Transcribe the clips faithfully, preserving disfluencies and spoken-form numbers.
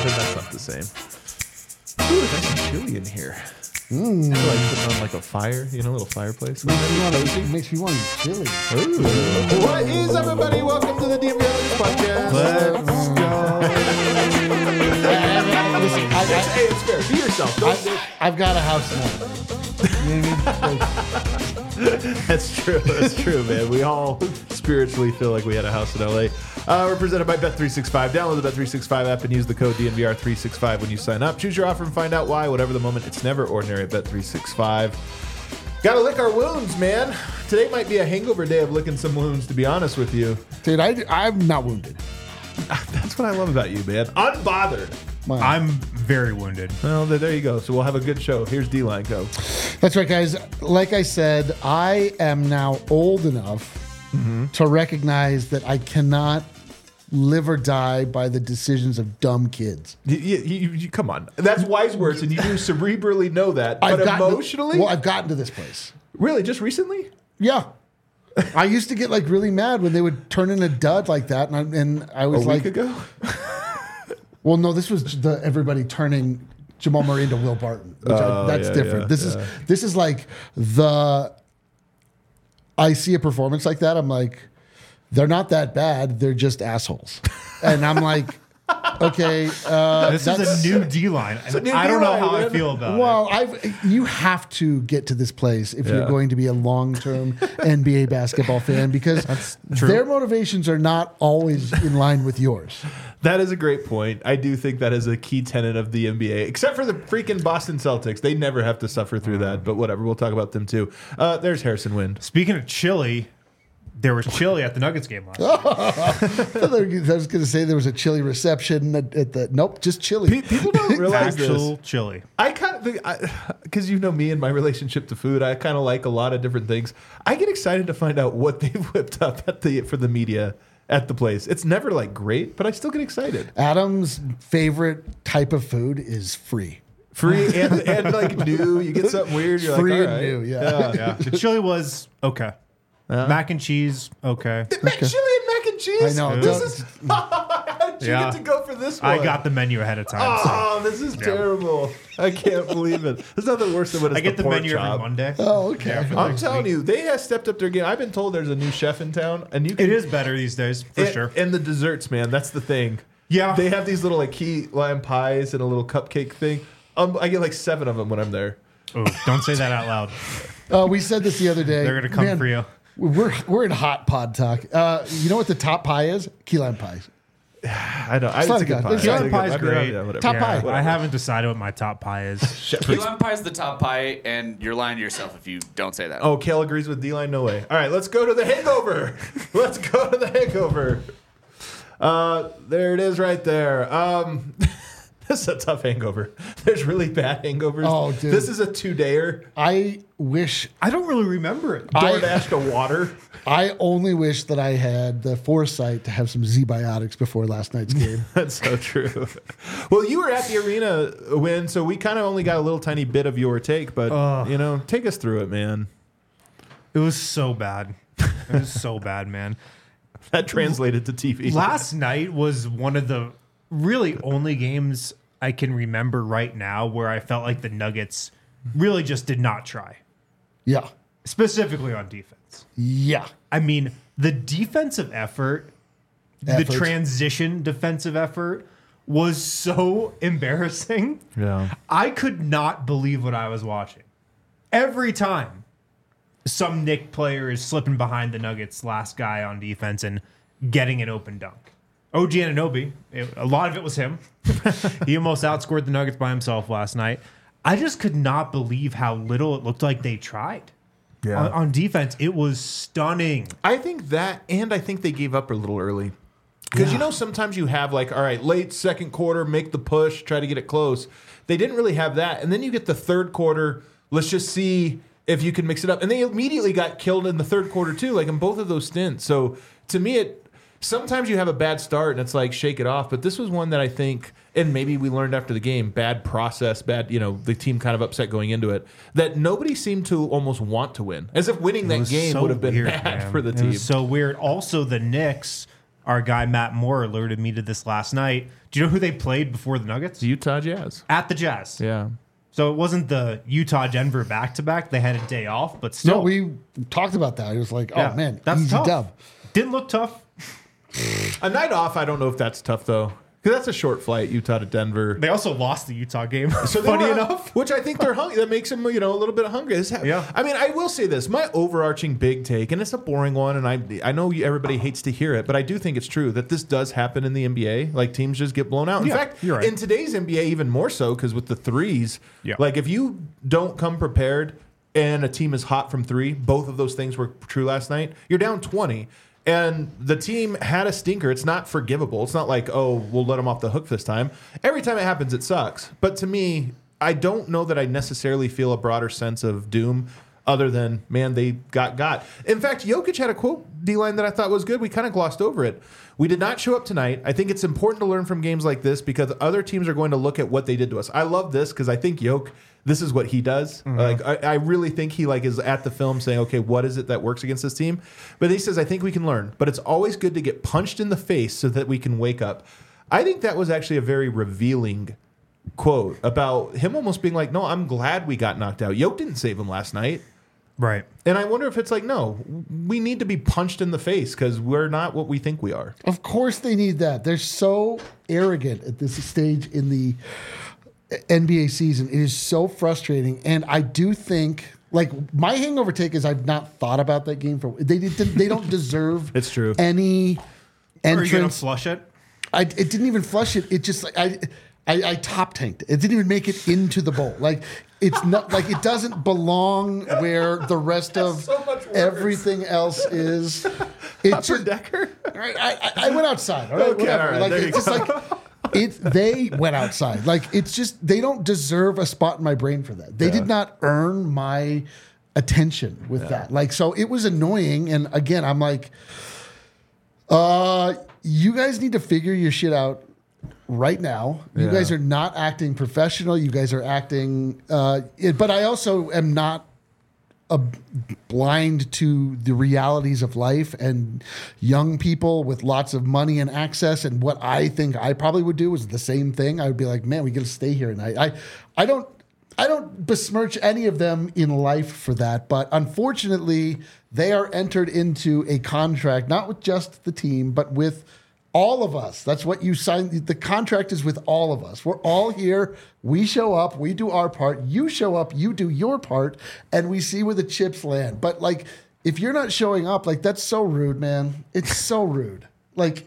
but that's not the same. Ooh, there's some chili in here. Mm. I feel like putting on like a fire, you know, a little fireplace. Makes me, want to, makes me want to eat chili. Ooh. What is up, everybody? Welcome to the D M V Podcast. Let's go. Listen, I, I, hey, it's fair. Be yourself. Don't I, I've got a house now. You know what I mean? Like, That's true. That's true, man. We all spiritually feel like we had a house in L A. Uh, we're presented by Bet three sixty-five. Download the Bet three sixty-five app and use the code D N V R three sixty-five when you sign up. Choose your offer and find out why. Whatever the moment, it's never ordinary at Bet three sixty-five. Gotta lick our wounds, man. Today might be a hangover day of licking some wounds, to be honest with you. dude, I, I'm not wounded. That's what I love about you, man. Unbothered. Wow. I'm very wounded. Well, there you go. So we'll have a good show. Here's D-Line Co. That's right, guys. Like I said, I am now old enough mm-hmm. to recognize that I cannot live or die by the decisions of dumb kids. You, you, you, come on. That's wise words, and you do cerebrally know that. But I've emotionally? To, well, I've gotten to this place. Really? Just recently? Yeah. I used to get like really mad when they would turn in a dud like that. And I, and I was a like... week ago? Well, no, this was the everybody turning Jamal Murray into Will Barton. Which oh, I, that's yeah, different. Yeah, this yeah. is this is like the... I see a performance like that. I'm like, they're not that bad. They're just assholes. And I'm like... Okay, uh, this is a new D-line. A new I don't know D-line, how man. I feel about well, it. Well, I've you have to get to this place if Yeah. you're going to be a long-term N B A basketball fan because their motivations are not always in line with yours. That is a great point. I do think that is a key tenet of the N B A, except for the freaking Boston Celtics. They never have to suffer through that, but whatever. We'll talk about them too. Uh, there's Harrison Wind. Speaking of chili, there was chili at the Nuggets game last night. I was going to say there was a chili reception at, at the nope, just chili. Pe- People don't realize Actual this. chili. I kind of think, because you know me and my relationship to food, I kind of like a lot of different things. I get excited to find out what they've whipped up at the for the media at the place. It's never like great, but I still get excited. Adam's favorite type of food is free. Free and, and like new. You get something weird. You're Free like, and all right. new, yeah. Yeah, the chili was okay. Uh, Mac and cheese, okay. Mac, chili and mac and cheese. I know. This Don't- is. How did you Yeah. get to go for this one? I got the menu ahead of time. so Oh, this is terrible. I can't believe it. There's nothing worse than when it's I get the, pork menu chop. every Monday. Oh, okay. Yeah, for the I'm next telling week. you, they have stepped up their game. I've been told there's a new chef in town, and you can, It is better these days, for and, sure. And the desserts, man, that's the thing. Yeah. They have these little like key lime pies and a little cupcake thing. Um, I get like seven of them when I'm there. Ooh, don't say that out loud. Uh, we said this the other day. They're going to come Man, for you. We're we're in hot pod talk. Uh, you know what the top pie is? Key lime pie. I know. I, It's it's not a good good. pie. It's It's not- a good- pie's I mean, great. yeah, whatever. Top Yeah, pie. I haven't decided what my top pie is. Key lime pie is the top pie, and you're lying to yourself if you don't say that. Oh, Kale agrees with D-Line? No way. All right, let's go to the hangover. Let's go to the hangover. Uh, there it is right there. Um, this is a tough hangover. There's really bad hangovers. Oh, dude. This is a two-dayer. I wish I don't really remember it. I- DoorDash to water. I only wish that I had the foresight to have some Z-biotics before last night's game. That's so true. Well, you were at the arena when, so we kind of only got a little tiny bit of your take, but, Ugh. you know, take us through it, man. It was so bad. It was so bad, man. That translated to T V. Last night was one of the really only games I can remember right now where I felt like the Nuggets really just did not try, Yeah. specifically on defense. Yeah. I mean, the defensive effort, Effort. the transition defensive effort was so embarrassing. Yeah. I could not believe what I was watching. Every time some Knick player is slipping behind the Nuggets' last guy on defense and getting an open dunk. O G Anunoby, it, a lot of it was him. He almost outscored the Nuggets by himself last night. I just could not believe how little it looked like they tried. Yeah. On, on defense, it was stunning. I think that, and I think they gave up a little early. Because, you know, sometimes you have like, all right, late second quarter, make the push, try to get it close. They didn't really have that. And then you get the third quarter, let's just see if you can mix it up. And they immediately got killed in the third quarter, too, like in both of those stints. So to me, it sometimes you have a bad start and it's like, shake it off. But this was one that I think, and maybe we learned after the game, bad process, bad, you know, the team kind of upset going into it, that nobody seemed to almost want to win. As if winning It that was game so would have been weird, bad man. for the It team. was so weird. Also, the Knicks our guy Matt Moore alerted me to this last night. Do you know who they played before the Nuggets? Utah Jazz. At the Jazz. Yeah. So it wasn't the Utah-Denver back-to-back. They had a day off, but still. No, we talked about that. It was like, Yeah, oh, man, that's easy tough. dub. Didn't look tough. A night off, I don't know if that's tough, though. Because that's a short flight, Utah to Denver. They also lost the Utah game. So they funny were- enough. which I think they're hungry. That makes them, you know, a little bit hungry. This ha- Yeah. I mean, I will say this: my overarching big take, and it's a boring one, and I, I know everybody hates to hear it, but I do think it's true that this does happen in the N B A. Like teams just get blown out. In Yeah, fact, you're right. in today's N B A, even more so because with the threes, Yeah. like if you don't come prepared and a team is hot from three, both of those things were true last night. You're down twenty. And the team had a stinker. It's not forgivable. It's not like, oh, we'll let them off the hook this time. Every time it happens, it sucks. But to me, I don't know that I necessarily feel a broader sense of doom other than, man, they got got. In fact, Jokic had a quote, D-line, that I thought was good. We kind of glossed over it. We did not show up tonight. I think it's important to learn from games like this because other teams are going to look at what they did to us. I love this because I think Jokic, this is what he does. Mm-hmm. Like I, I really think he like is at the film saying, okay, what is it that works against this team? But he says, I think we can learn. But it's always good to get punched in the face so that we can wake up. I think that was actually a very revealing quote about him almost being like, no, I'm glad we got knocked out. Yoke didn't save him last night. Right. And I wonder if it's like, no, we need to be punched in the face because we're not what we think we are. Of course they need that. They're so arrogant at this stage in the N B A season. It is so frustrating. And I do think, like, my hangover take is I've not thought about that game for they did, they don't deserve It's true. any Are you going to entrance. flush it? I, it didn't even flush it. It just like I, I, I top tanked it. It didn't even make it into the bowl. Like it's not like it doesn't belong where the rest of so much worse. everything else is. It Upper just, Decker? I, I, I went outside. All right, Okay, whatever. all right, like there you it's just like it. They went outside. Like it's just they don't deserve a spot in my brain for that. They Yeah. did not earn my attention with that. Like so, it was annoying. And again, I'm like, uh, you guys need to figure your shit out right now. You Yeah. guys are not acting professional. You guys are acting. Uh, it, but I also am not a blind to the realities of life and young people with lots of money and access. And what I think I probably would do is the same thing. I would be like, man, we got to stay here tonight. I, I don't, I don't besmirch any of them in life for that, but unfortunately, they are entered into a contract not with just the team, but with all of us. That's what you signed. The contract is with all of us. We're all here. We show up. We do our part. You show up. You do your part, and we see where the chips land. But like, if you're not showing up, like that's so rude, man. It's so rude. Like,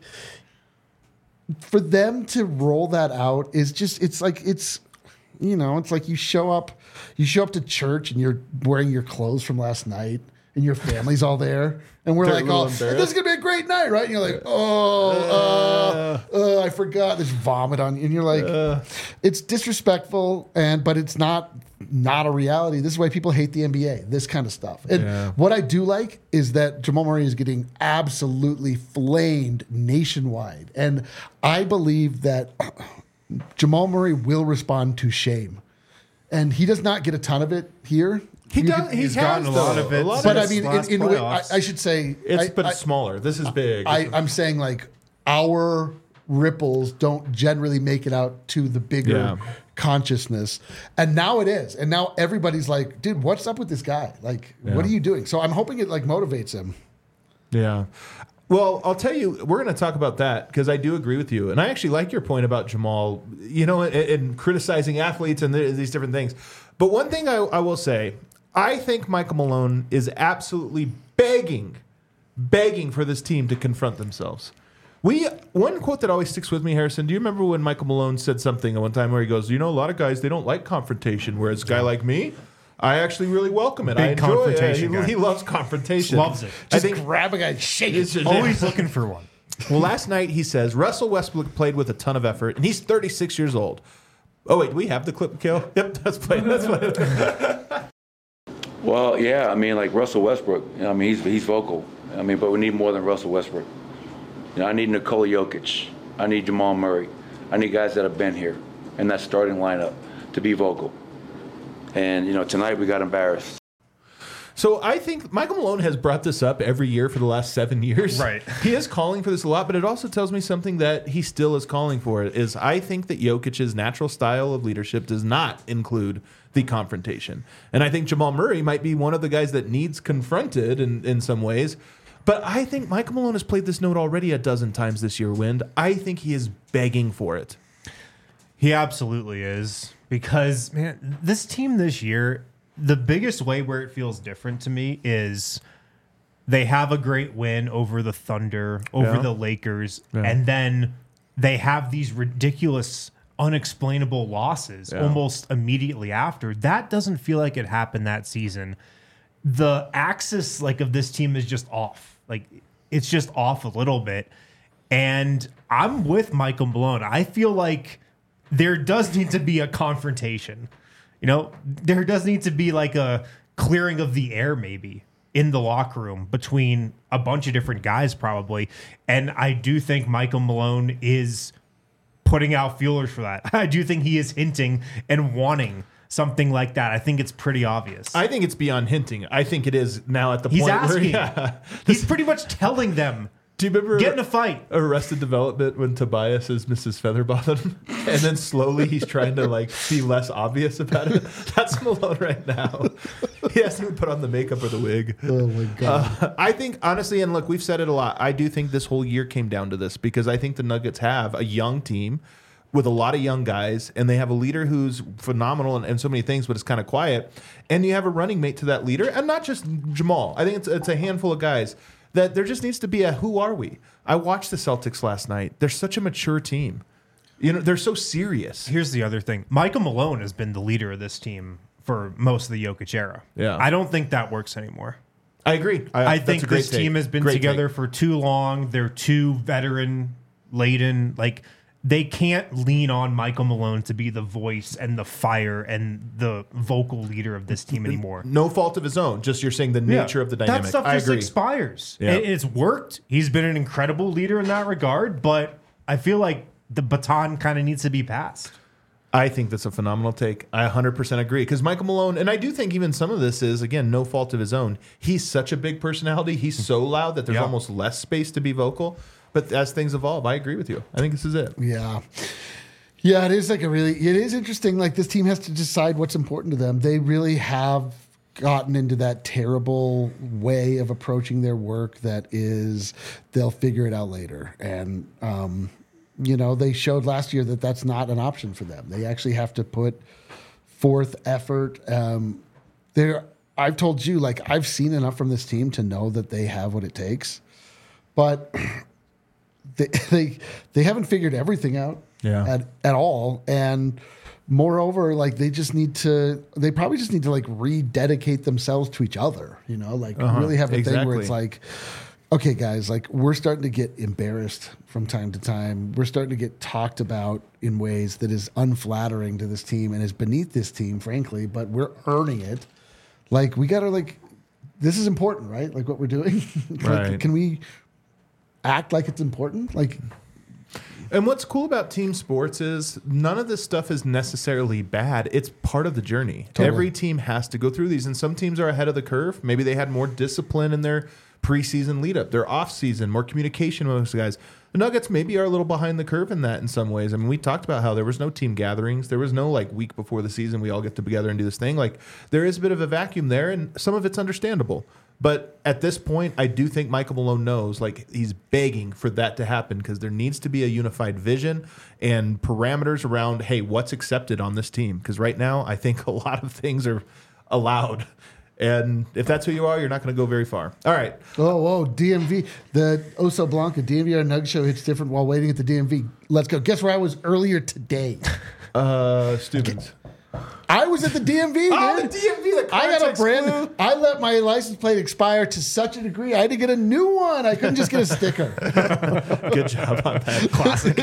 for them to roll that out is just. It's like it's, you know, it's like you show up. You show up to church and you're wearing your clothes from last night, and your family's all there. And we're They're like, a little oh, this embarrassed. is going to be a great night, right? And you're like, oh, uh, uh, I forgot. There's vomit on you. And you're like, it's disrespectful, and but it's not not a reality. This is why people hate the N B A, this kind of stuff. And Yeah. what I do like is that Jamal Murray is getting absolutely flamed nationwide. And I believe that Jamal Murray will respond to shame. And he does not get a ton of it here. He You does. could- He he's has gotten a lot though. of it A lot but I of since mean, last in, in a way, I, playoffs. I should say, It's I- but I- it's smaller. This is big. I, I'm saying like our ripples don't generally make it out to the bigger Yeah. consciousness. And now it is. And now everybody's like, dude, what's up with this guy? Like, Yeah. what are you doing? So I'm hoping it like motivates him. Yeah. Well, I'll tell you, we're going to talk about that because I do agree with you. And I actually like your point about Jamal, you know, and, and criticizing athletes and th- these different things. But one thing I, I will say, I think Michael Malone is absolutely begging, begging for this team to confront themselves. We one quote that always sticks with me, Harrison. Do you remember when Michael Malone said something at one time where he goes, "You know, a lot of guys they don't like confrontation, whereas a guy like me, I actually really welcome it. I Big enjoy it. confrontation He, guy. he loves confrontation. Loves it. I Just think grab a guy and shake it. it's just- Always looking for one. well, last night he says Russell Westbrook played with a ton of effort, and he's thirty-six years old. Oh wait, do we have the clip, Kill? Yep, that's played. That's played. Well, yeah, I mean, like Russell Westbrook. I mean, he's he's vocal. I mean, but we need more than Russell Westbrook. You know, I need Nikola Jokic. I need Jamal Murray. I need guys that have been here in that starting lineup to be vocal. And you know, tonight we got embarrassed. So I think Michael Malone has brought this up every year for the last seven years. Right. He is calling for this a lot, but it also tells me something that he still is calling for. It is I think that Jokic's natural style of leadership does not include the confrontation. And I think Jamal Murray might be one of the guys that needs confronted in, in some ways. But I think Michael Malone has played this note already a dozen times this year, Wind. I think he is begging for it. He absolutely is. Because, man, this team this year, the biggest way where it feels different to me is they have a great win over the Thunder, over Yeah. the Lakers, Yeah. and then they have these ridiculous, unexplainable losses Yeah. almost immediately after. That doesn't feel like it happened that season. The axis like of this team is just off. Like it's just off a little bit. And I'm with Michael Malone. I feel like there does need to be a confrontation. You know, there does need to be like a clearing of the air maybe in the locker room between a bunch of different guys probably. And I do think Michael Malone is putting out feelers for that. I do think he is hinting and wanting something like that. I think it's pretty obvious. I think it's beyond hinting. I think it is now at the He's point asking. where yeah. He's pretty much telling them, Do you remember get in a fight. Arrested Development when Tobias is Missus Featherbottom, and then slowly he's trying to like be less obvious about it? That's Malone right now. He hasn't even put on the makeup or the wig. Oh my god. Uh, I think honestly, and look, we've said it a lot. I do think this whole year came down to this because I think the Nuggets have a young team with a lot of young guys, and they have a leader who's phenomenal and, and so many things, but it's kind of quiet. And you have a running mate to that leader, and not just Jamal. I think it's it's a handful of guys that there just needs to be a who are we? I watched the Celtics last night. They're such a mature team. You know, they're so serious. Here's the other thing. Michael Malone has been the leader of this team for most of the Jokic era. Yeah. I don't think that works anymore. I agree. I, I that's think a great this take. team has been Great together take. for too long. They're too veteran laden. Like they can't lean on Michael Malone to be the voice and the fire and the vocal leader of this team anymore. No fault of his own. Just you're saying the nature of the dynamic. That stuff I just agree. expires. Yeah. It- it's worked. He's been an incredible leader in that regard, but I feel like the baton kind of needs to be passed. I think that's a phenomenal take. I one hundred percent agree. Because Michael Malone, and I do think even some of this is, again, no fault of his own. He's such a big personality. He's so loud that there's Yeah. almost less space to be vocal. But as things evolve, I agree with you. I think this is it. Yeah. Yeah, it is like a really, it is interesting. Like this team has to decide what's important to them. They really have gotten into that terrible way of approaching their work that is, they'll figure it out later. And, um, you know, they showed last year that that's not an option for them. They actually have to put forth effort. Um, they're, I've told you, like, I've seen enough from this team to know that they have what it takes. But they they, they haven't figured everything out Yeah. at, at all. And moreover, like they just need to, they probably just need to like rededicate themselves to each other, you know, like Uh-huh. really have a thing where Exactly. it's like, okay, guys, like we're starting to get embarrassed from time to time. We're starting to get talked about in ways that is unflattering to this team and is beneath this team, frankly, but we're earning it. Like we got to like, this is important, right? Like what we're doing. Like, Right. can we act like it's important? Like, And what's cool about team sports is none of this stuff is necessarily bad. It's part of the journey. Totally. Every team has to go through these, and some teams are ahead of the curve. Maybe they had more discipline in their preseason lead up, their off season, more communication with those guys. The Nuggets maybe are a little behind the curve in that in some ways. I mean, we talked about how there was no team gatherings. There was no like week before the season we all get together and do this thing. Like there is a bit of a vacuum there, and some of it's understandable. But at this point, I do think Michael Malone knows, like he's begging for that to happen because there needs to be a unified vision and parameters around, hey, what's accepted on this team? Because right now, I think a lot of things are allowed. And if that's who you are, you're not going to go very far. All right. oh, whoa, D M V, the Oso Blanca, D M V, our Nug show hits different while waiting at the D M V. Let's go. Guess where I was earlier today? Uh, Stevens. I was at the D M V, Oh, dude. the D M V, the I got a context brand. clue. I let my license plate expire to such a degree. I had to get a new one. I couldn't just get a sticker. Good job on that. Classic.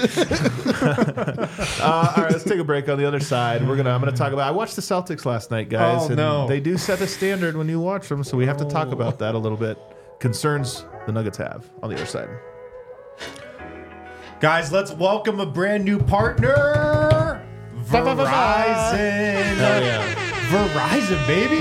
uh, all right, let's take a break. On the other side, we're gonna. I'm gonna talk about. I watched the Celtics last night, guys. Oh, and no. They do set a standard when you watch them, so we have to talk about that a little bit. Concerns the Nuggets have on the other side. Guys, let's welcome a brand new partner, Verizon. Hell yeah. Verizon, baby.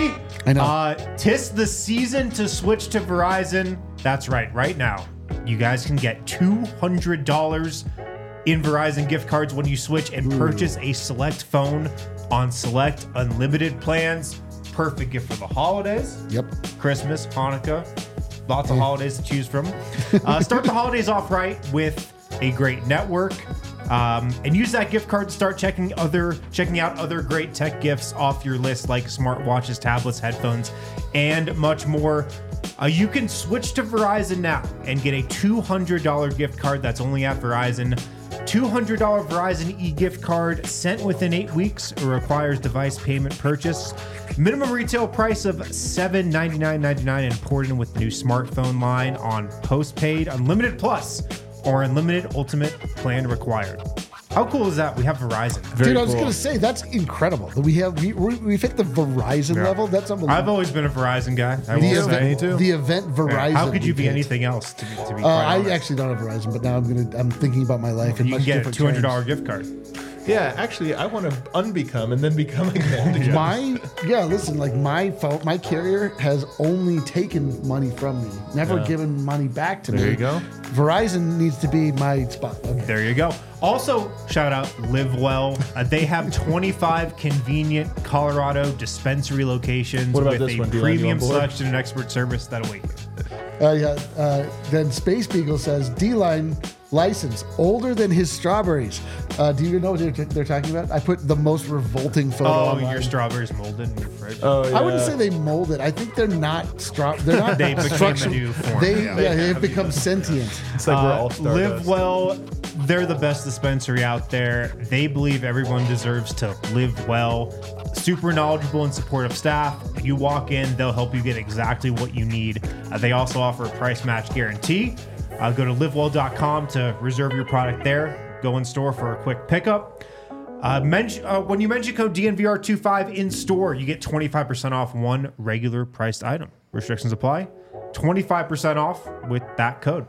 I know. Uh, tis the season to switch to Verizon. That's right. Right now, you guys can get two hundred dollars in Verizon gift cards when you switch and purchase a select phone on select unlimited plans. Perfect gift for the holidays. Yep. Christmas, Hanukkah, lots of holidays to choose from. Uh, start the holidays off right with a great network, um, and use that gift card to start checking other checking out other great tech gifts off your list, like smartwatches, tablets, headphones, and much more. Uh, you can switch to Verizon now and get a two hundred dollars gift card that's only at Verizon. two hundred dollars Verizon e-gift card sent within eight weeks. It requires device payment purchase. Minimum retail price of seven hundred ninety-nine dollars and ninety-nine cents and imported in with the new smartphone line on postpaid, unlimited plus, or unlimited ultimate plan required. How cool is that? We have Verizon. Very Dude, I was cool. gonna say that's incredible that we have we we- we've hit the Verizon Yeah. level. That's I've unbelievable. always been a Verizon guy. I The will event, say. Me too. the event Verizon. How could you we be did. anything else? To be, to be Uh, quite I honest? actually don't have Verizon, but now I'm gonna I'm thinking about my life in you much can get a different two hundred terms. dollars gift card. Yeah, actually, I want to unbecome and then become again. My yeah, listen, like my phone, my carrier has only taken money from me, never Yeah. given money back to me. There you go. Verizon needs to be my spot. Okay. There you go. Also, shout out Live Well. Uh, they have twenty-five convenient Colorado dispensary locations What about with this a one, Dylan? You premium on board? selection and expert service that'll wait you. Uh, yeah. Uh, then Space Beagle says D-Line license older than his strawberries. Uh, do you know what they're, they're talking about? I put the most revolting photo Oh, online. your strawberries molded in your fridge. Oh, yeah. I wouldn't say they molded. I think they're not straw. They're not. They became a structured- new form, They yeah. yeah, they've become sentient. It's like we're Uh, all Live stardust. Well, they're the best dispensary out there. They believe everyone deserves to live well. Super knowledgeable and supportive staff. You walk in, they'll help you get exactly what you need. Uh, they also offer a price match guarantee. Uh, go to live well dot com to reserve your product there. Go in store for a quick pickup. Uh, men- uh, when you mention code D N V R twenty-five in store, you get twenty-five percent off one regular priced item. Restrictions apply. twenty-five percent off with that code.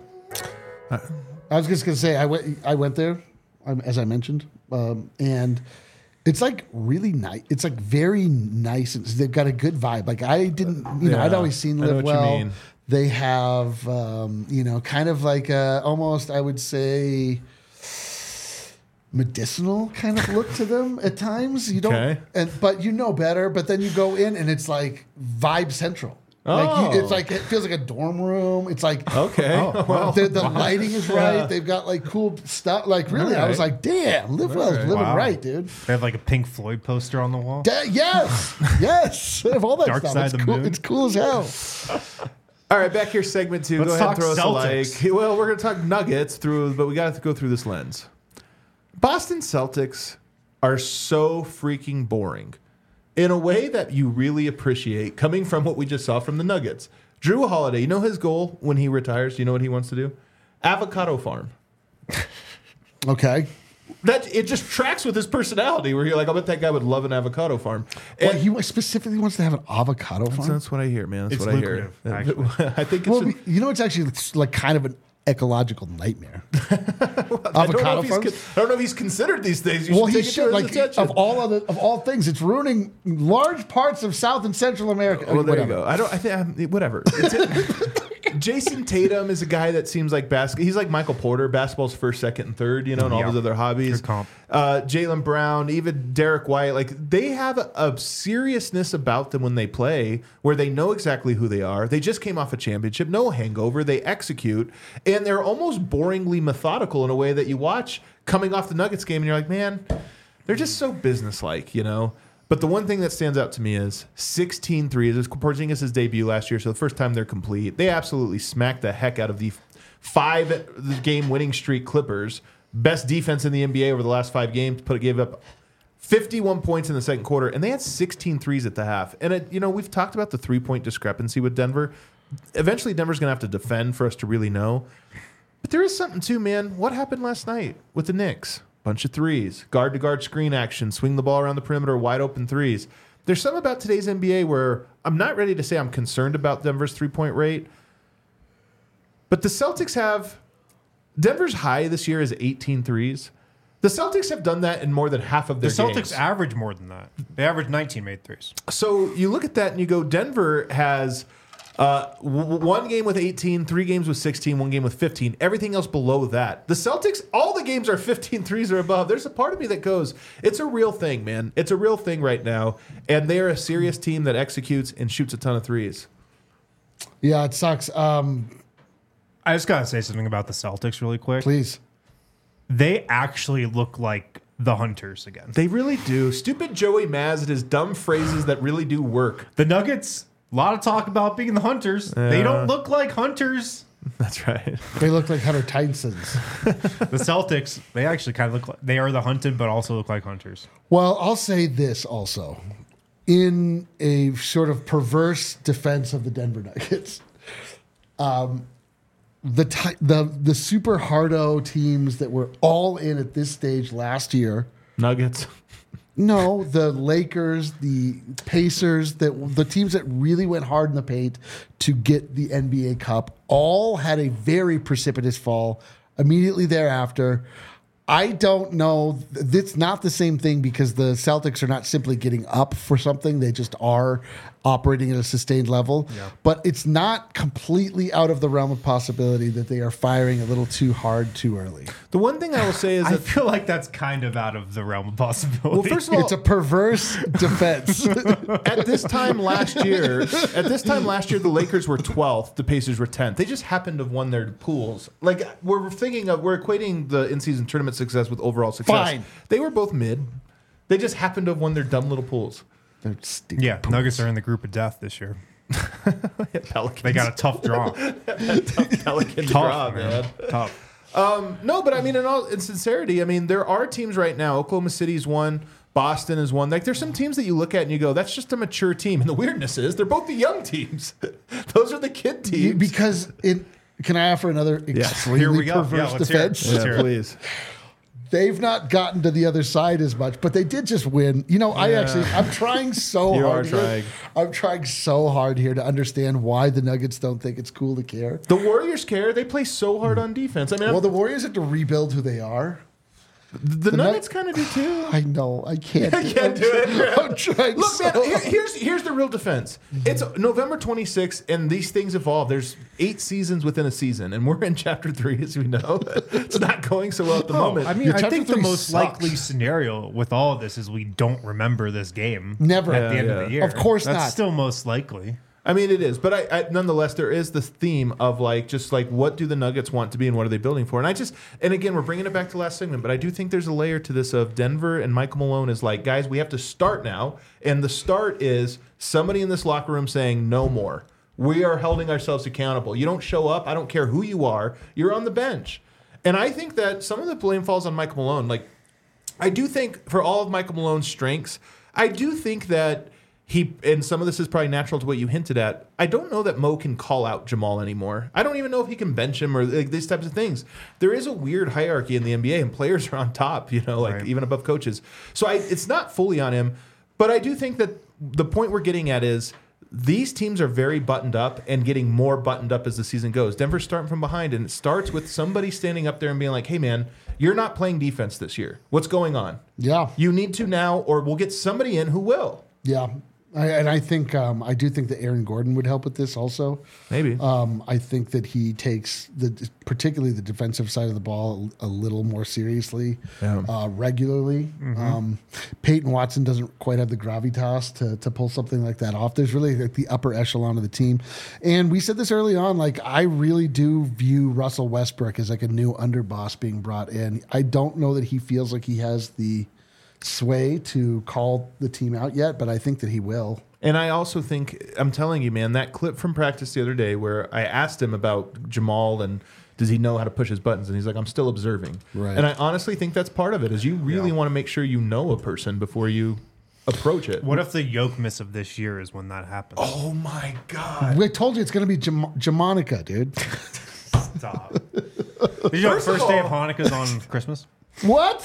I was just gonna say I went I went there, um, as I mentioned, um, and it's like really nice. It's like very nice. And they've got a good vibe. Like I didn't, you know, I'd Yeah, always seen I know Live what you Well. mean. They have, um, you know, kind of like a, almost I would say medicinal kind of look to them at times. You don't, Okay. and but you know better. But then you go in and it's like vibe central. Like Oh. you, it's like it feels like a dorm room. It's like Okay. well, the, the lighting is right. They've got like cool stuff. Like really, I was Alright. like, damn, Live Well is Alright. living Wow. right, dude. They have like a Pink Floyd poster on the wall. Da- yes, yes. They have all that Dark stuff. Side It's of the cool. Moon. It's cool as hell. all right, back here, segment two. Let's go ahead and talk throw us a Celtics. like. Well, we're going to talk Nuggets through, but we got to go through this lens. Boston Celtics are so freaking boring in a way that you really appreciate coming from what we just saw from the Nuggets. Drew Holiday, you know his goal when he retires? You know what he wants to do? Avocado farm. Okay. That it just tracks with his personality. Where you're like, I bet that guy would love an avocado farm. Well, And he specifically wants to have an avocado farm. that's what I hear, man. That's It's what lucrative, I hear. I think it's. Well, an- you know, it's actually like kind of an ecological nightmare. I don't, know avocado if he's farms. con- I don't know if he's considered these things. You Well, should he take it to should. his Like attention. of all other of all things, it's ruining large parts of South and Central America. Well, there Whatever. you go. I don't. I think um, whatever. It's it. Jason Tatum is a guy that seems like basketball. He's like Michael Porter, basketball's first, second, and third. You know, and all Yeah. his other hobbies. Good comp. Uh, Jaylen Brown, even Derek White. Like they have a, a seriousness about them when they play, where they know exactly who they are. They just came off a championship, no hangover. They execute, and they're almost boringly methodical in a way that you watch coming off the Nuggets game, and you're like, man, they're just so businesslike, you know. But the one thing that stands out to me is sixteen threes. It was Porzingis' debut last year, so the first time they're complete. They absolutely smacked the heck out of the five-game winning streak Clippers. Best defense in the N B A over the last five games. Put gave up fifty-one points in the second quarter, and they had sixteen threes at the half. And, it, you know, we've talked about the three-point discrepancy with Denver. Eventually, Denver's going to have to defend for us to really know. But there is something, too, man. What happened last night with the Knicks? Bunch of threes, guard to guard screen action, swing the ball around the perimeter, wide open threes. There's something about today's N B A where I'm not ready to say I'm concerned about Denver's three point rate, but the Celtics have Denver's high this year is eighteen threes. The Celtics have done that in more than half of The their Celtics games. average more than that. They average nineteen made threes. So you look at that and you go, Denver has uh, w- one game with eighteen, three games with sixteen, one game with fifteen. Everything else below that. The Celtics, all the games are fifteen threes or above. There's a part of me that goes, it's a real thing, man. It's a real thing right now. And they are a serious team that executes and shoots a ton of threes. Yeah, it sucks. Um, I just got to say something about the Celtics really quick. please. They actually look like the Hunters again. They really do. Stupid Joey Maz and his dumb phrases that really do work. The Nuggets, a lot of talk about being the Hunters. They don't look like Hunters. That's right. They look like Hunter Tysons. The Celtics, they actually kind of look like they are the hunted, but also look like Hunters. Well, I'll say this also. In a sort of perverse defense of the Denver Nuggets, um, the ty- the the super hardo teams that were all in at this stage last year. Nuggets. No, the Lakers, the Pacers, that the teams that really went hard in the paint to get the N B A Cup all had a very precipitous fall immediately thereafter. I don't know. It's not the same thing because the Celtics are not simply getting up for something. They just are operating at a sustained level. Yeah. But it's not completely out of the realm of possibility that they are firing a little too hard too early. The one thing I will say is I that feel like that's kind of out of the realm of possibility. well, first of all, It's a perverse defense. at this time last year, at this time last year, the Lakers were twelfth, the Pacers were tenth. They just happened to have won their pools. Like we're thinking of, we're equating the in-season tournament success with overall success. Fine. They were both mid. They just happened to have won their dumb little pools. They're stupid yeah, pools. Nuggets are in the group of death this year. Pelicans. They got a tough draw. Pelican tough, draw, man. man. Tough. No, but I mean, in all in sincerity, I mean, there are teams right now. Oklahoma City's one. Boston is one. Like, there's some teams that you look at and you go, that's just a mature team. And the weirdness is, they're both the young teams. Those are the kid teams. You- because it. Can I offer another extremely Here we go. perverse Yeah, let's hear it. defense? Let's yeah, hear it. please. They've not gotten to the other side as much, but they did just win. You know, I actually, I'm trying so You hard. are here. trying. I'm trying so hard here to understand why the Nuggets don't think it's cool to care. The Warriors care. They play so hard on defense. I mean, Well, the Warriors have to rebuild who they are. the, the Nuggets Nug- kind of do too. I know. I can't. I can't do it. I'm trying Look, so man, here- hard. here's here's the real defense. It's November twenty-sixth, and these things evolve. There's eight seasons within a season, and we're in chapter three, as we know. It's not going so well at the Oh, moment. I mean, Your I chapter think the three most sucks. likely scenario with all of this is we don't remember this game Never. at the Yeah, end yeah. of the year. Of course That's not. still most likely. I mean, it is, but I, I nonetheless there is this theme of like just like what do the Nuggets want to be and what are they building for? And I just and again we're bringing it back to last segment, but I do think there's a layer to this of Denver and Michael Malone is like, guys, we have to start now, and the start is somebody in this locker room saying no more. We are holding ourselves accountable. You don't show up, I don't care who you are, you're on the bench. And I think that some of the blame falls on Michael Malone. Like, I do think for all of Michael Malone's strengths, I do think that he, and some of this is probably natural to what you hinted at, I don't know that Mo can call out Jamal anymore. I don't even know if he can bench him or like these types of things. There is a weird hierarchy in the N B A, and players are on top, you know, like Right. even above coaches. So I, it's not fully on him, but I do think that the point we're getting at is these teams are very buttoned up and getting more buttoned up as the season goes. Denver's starting from behind, and it starts with somebody standing up there and being like, hey, man, you're not playing defense this year. What's going on? Yeah. You need to now, or we'll get somebody in who will. Yeah. I, and I think um, I do think that Aaron Gordon would help with this also. Maybe. Um, I think that he takes the particularly the defensive side of the ball a, a little more seriously, Yeah. uh, regularly. Um, Peyton Watson doesn't quite have the gravitas to to pull something like that off. There's really like the upper echelon of the team, and we said this early on. Like I really do view Russell Westbrook as like a new underboss being brought in. I don't know that he feels like he has the sway to call the team out yet, but I think that he will. And I also think, I'm telling you, man, that clip from practice the other day where I asked him about Jamal and does he know how to push his buttons? And he's like, I'm still observing. Right. And I honestly think that's part of it, is you really Yeah. want to make sure you know a person before you approach it. What if the yoke miss of this year is when that happens? Oh, my God. We told you it's going to be Jam- Jamonica, dude. Stop. Did you know the First of first day of all- Hanukkah's on Christmas? What?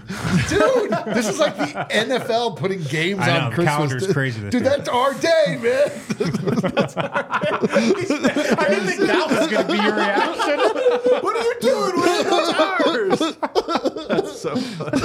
Dude, this is like the N F L putting games I know, on the Christmas. calendar's crazy this Dude, year. that's our day, man. I didn't think that was going to be your reaction. What are you doing? Where's ours? That's so funny.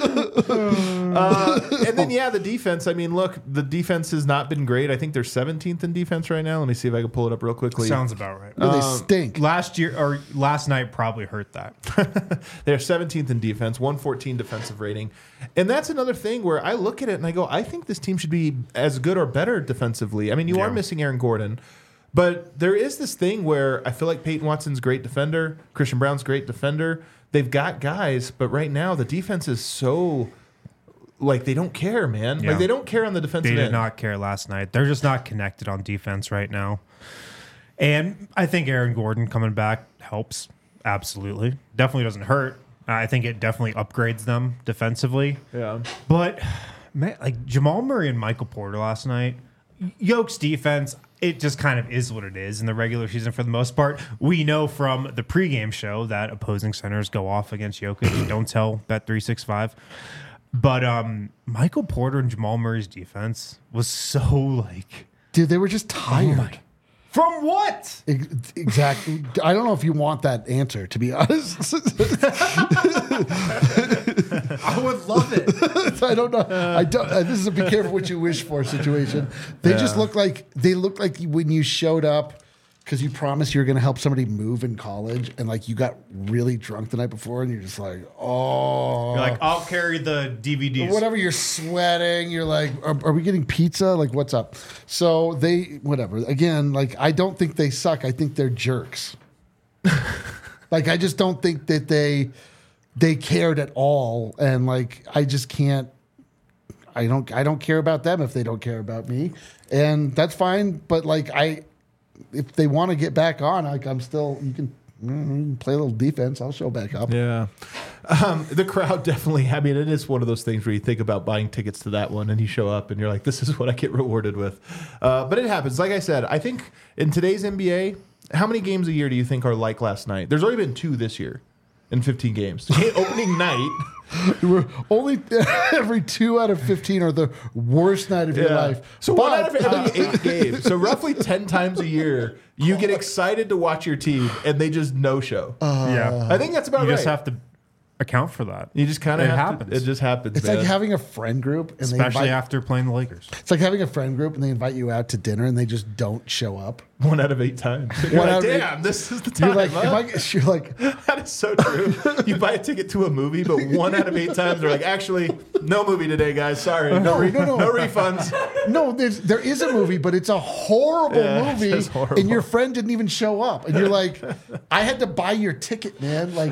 uh, and then, yeah, the defense. I mean, look, the defense has not been great. I think they're seventeenth in defense right now. Let me see if I can pull it up real quickly. Sounds about right. No, they Um, stink. Last year or last night probably hurt that. They're seventeenth in defense, one fourteen defensive rating. And that's another thing where I look at it and I go, I think this team should be as good or better defensively. I mean, you Yeah. are missing Aaron Gordon. But there is this thing where I feel like Peyton Watson's a great defender. Christian Brown's a great defender. They've got guys, but right now the defense is so, like, they don't care, man. Yeah. Like, they don't care on the defensive They did end. not care last night. They're just not connected on defense right now. And I think Aaron Gordon coming back helps. Absolutely. Definitely doesn't hurt. I think it definitely upgrades them defensively. Yeah. But, man, like Jamal Murray and Michael Porter last night, Yoke's defense, it just kind of is what it is in the regular season for the most part. We know from the pregame show that opposing centers go off against Jokic. Don't tell Bet three sixty-five. But um, Michael Porter and Jamal Murray's defense was so like... Dude, they were just tired. From what? Ex- Exactly. I don't know if you want that answer, to be honest. I would love it. I don't know. I don't. Uh, this is a be careful what you wish for situation. They just look like they look like when you showed up because you promised you were going to help somebody move in college, and like you got really drunk the night before, and you're just like, oh, You're like, I'll carry the D V Ds. whatever. You're sweating. You're like, are, are we getting pizza? Like, what's up? So they, whatever. Again, like I don't think they suck. I think they're jerks. Like I just don't think that they they cared at all, and like I just can't. I don't. I don't care about them if they don't care about me, and that's fine. But like I, if they want to get back on, like I'm still. You can, you can play a little defense. I'll show back up. Yeah. Um, the crowd definitely, I mean, it is one of those things where you think about buying tickets to that one and you show up and you're like, this is what I get rewarded with. Uh, but it happens. Like I said, I think in today's N B A, how many games a year do you think are like last night? There's already been two this year in fifteen games. Opening night. We're only every two out of fifteen are the worst night of your life. So But- one out of every eight games. So roughly ten times a year, you get excited to watch your team and they just no show. yeah. I think that's about You right. just have to account for that. you just kind of it have happens. To, it just happens. It's man. like having a friend group, and they Especially invite, after playing the Lakers. it's like having a friend group, and they invite you out to dinner, and they just don't show up. one out of eight times. You're One like, out of eight- damn, this is the time. You're like, huh? am I, you're like, That is so true. You buy a ticket to a movie, but one out of eight times they're like, actually, no movie today, guys. Sorry, no, No, re- no, no. no refunds. no, there's, there is a movie, but it's a horrible Yeah, movie, it's horrible. and your friend didn't even show up, and you're like, I had to buy your ticket, man. Like,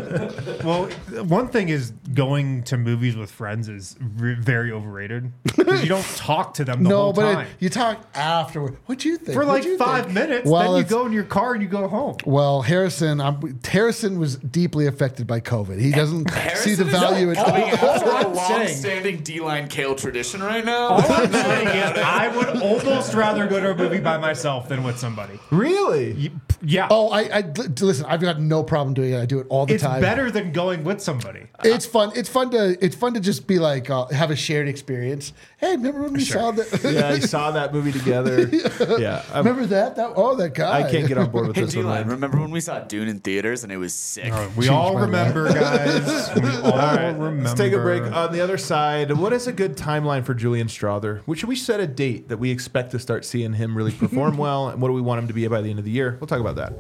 Well, one thing is going to movies with friends is re- very overrated because you don't talk to them the no, whole but time. it, you talk afterward. What'd you think? For like What'd you five think? minutes, Well, then you it's- go in your car and you go home. Well, Harrison, I'm, Harrison was deeply affected by COVID. He doesn't see the Harrison is value in coming after a I'm saying- long-standing D-line Kale tradition right now. All I'm saying is I would almost rather go to a movie by myself than with somebody. Really? Yeah. Oh, I, I listen. I've got no problem doing it. I do it all the it's time. better than going with somebody. It's fun. It's fun to. It's fun to just be like uh, have a shared experience. Hey, remember when we saw that? Yeah, you saw that movie together. Yeah. I'm- Remember that? That oh, that guy. I can't get on board with Hey, this one. D-line, man. remember when we saw Dune in theaters and it was sick? We Changed all my remember, guys. We all, remember. Let's take a break. On the other side, what is a good timeline for Julian Strother? Which should we set a date that we expect to start seeing him really perform well? And what do we want him to be by the end of the year? We'll talk about that.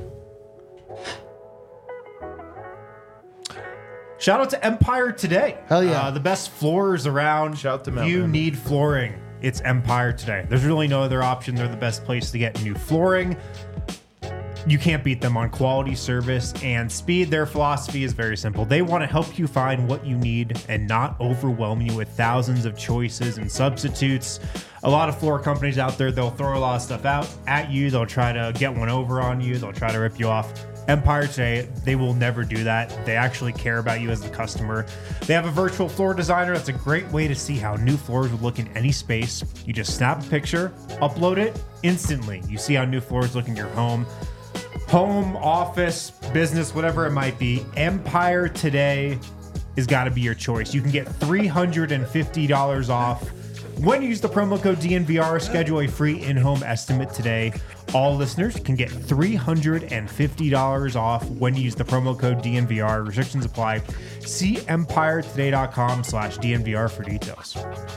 Shout out to Empire Today. Hell yeah. Uh, the best floors around. Shout out to If Mount you Vernon. need flooring, it's Empire Today. There's really no other option. They're the best place to get new flooring. You can't beat them on quality, service, and speed. Their philosophy is very simple. They want to help you find what you need and not overwhelm you with thousands of choices and substitutes. A lot of floor companies out there, they'll throw a lot of stuff out at you. They'll try to get one over on you. They'll try to rip you off. Empire Today, they will never do that. They actually care about you as the customer. They have a virtual floor designer. That's a great way to see how new floors would look in any space. You just snap a picture, upload it instantly. You see how new floors look in your home. Home, office, business, whatever it might be. Empire Today has got to be your choice. You can get three hundred fifty dollars off when you use the promo code D N V R. Schedule a free in-home estimate today. All listeners can get three hundred fifty dollars off when you use the promo code D N V R. Restrictions apply. See empire today dot com slash D N V R for details.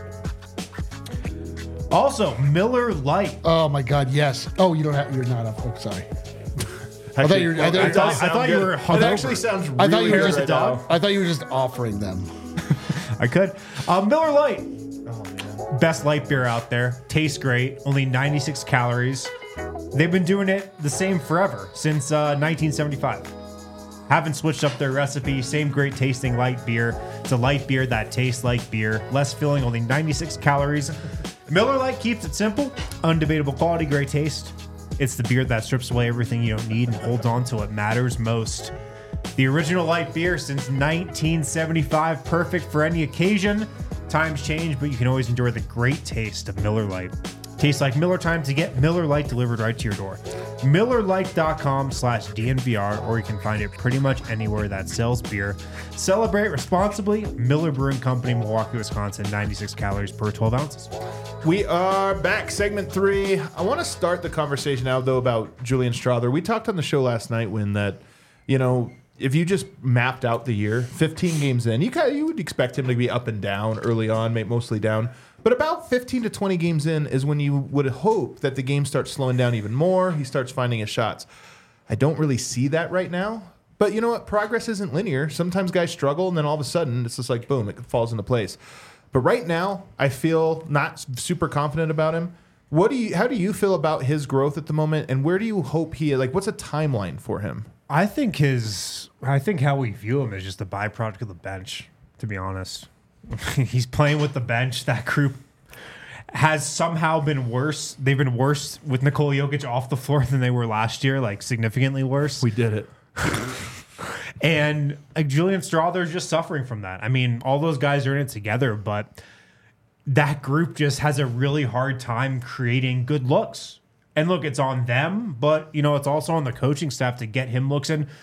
Also, Miller Lite. Oh my God, yes. Oh, you don't have. You're not up. Oh, sorry. I thought you were. I thought, I thought, I thought you were It hungover. actually sounds really I thought you were good just right a dog. now. I thought you were just offering them. I could. Uh, Miller Lite. Oh, man. Best light beer out there. Tastes great. Only ninety-six calories. They've been doing it the same forever, since uh, nineteen seventy-five. Haven't switched up their recipe. Same great tasting light beer. It's a light beer that tastes like beer. Less filling, only ninety-six calories. Miller Lite keeps it simple. Undebatable quality, great taste. It's the beer that strips away everything you don't need and holds on to what matters most. The original light beer since nineteen seventy-five, perfect for any occasion. Times change, but you can always enjoy the great taste of Miller Lite. Tastes like Miller time to get Miller Lite delivered right to your door. Miller Lite dot com slash D N V R, or you can find it pretty much anywhere that sells beer. Celebrate responsibly. Miller Brewing Company, Milwaukee, Wisconsin, ninety-six calories per twelve ounces. We are back, segment three. I want to start the conversation out, though, about Julian Strawther. We talked on the show last night when that, you know, if you just mapped out the year, fifteen games in, you kind of, you would expect him to be up and down early on, mostly down. But about fifteen to twenty games in is when you would hope that the game starts slowing down even more. He starts finding his shots. I don't really see that right now. But you know what? Progress isn't linear. Sometimes guys struggle, and then all of a sudden, it's just like, boom, it falls into place. But right now, I feel not super confident about him. What do you? How do you feel about his growth at the moment, and where do you hope he? Like, what's a timeline for him? I think his, I think how we view him is just a byproduct of the bench, to be honest. He's playing with the bench. That group has somehow been worse. They've been worse with Nikola Jokic off the floor than they were last year, like significantly worse. We did it. And like Julian Strawther's just suffering from that. I mean, all those guys are in it together, but that group just has a really hard time creating good looks. And look, it's on them, but you know, it's also on the coaching staff to get him looks. And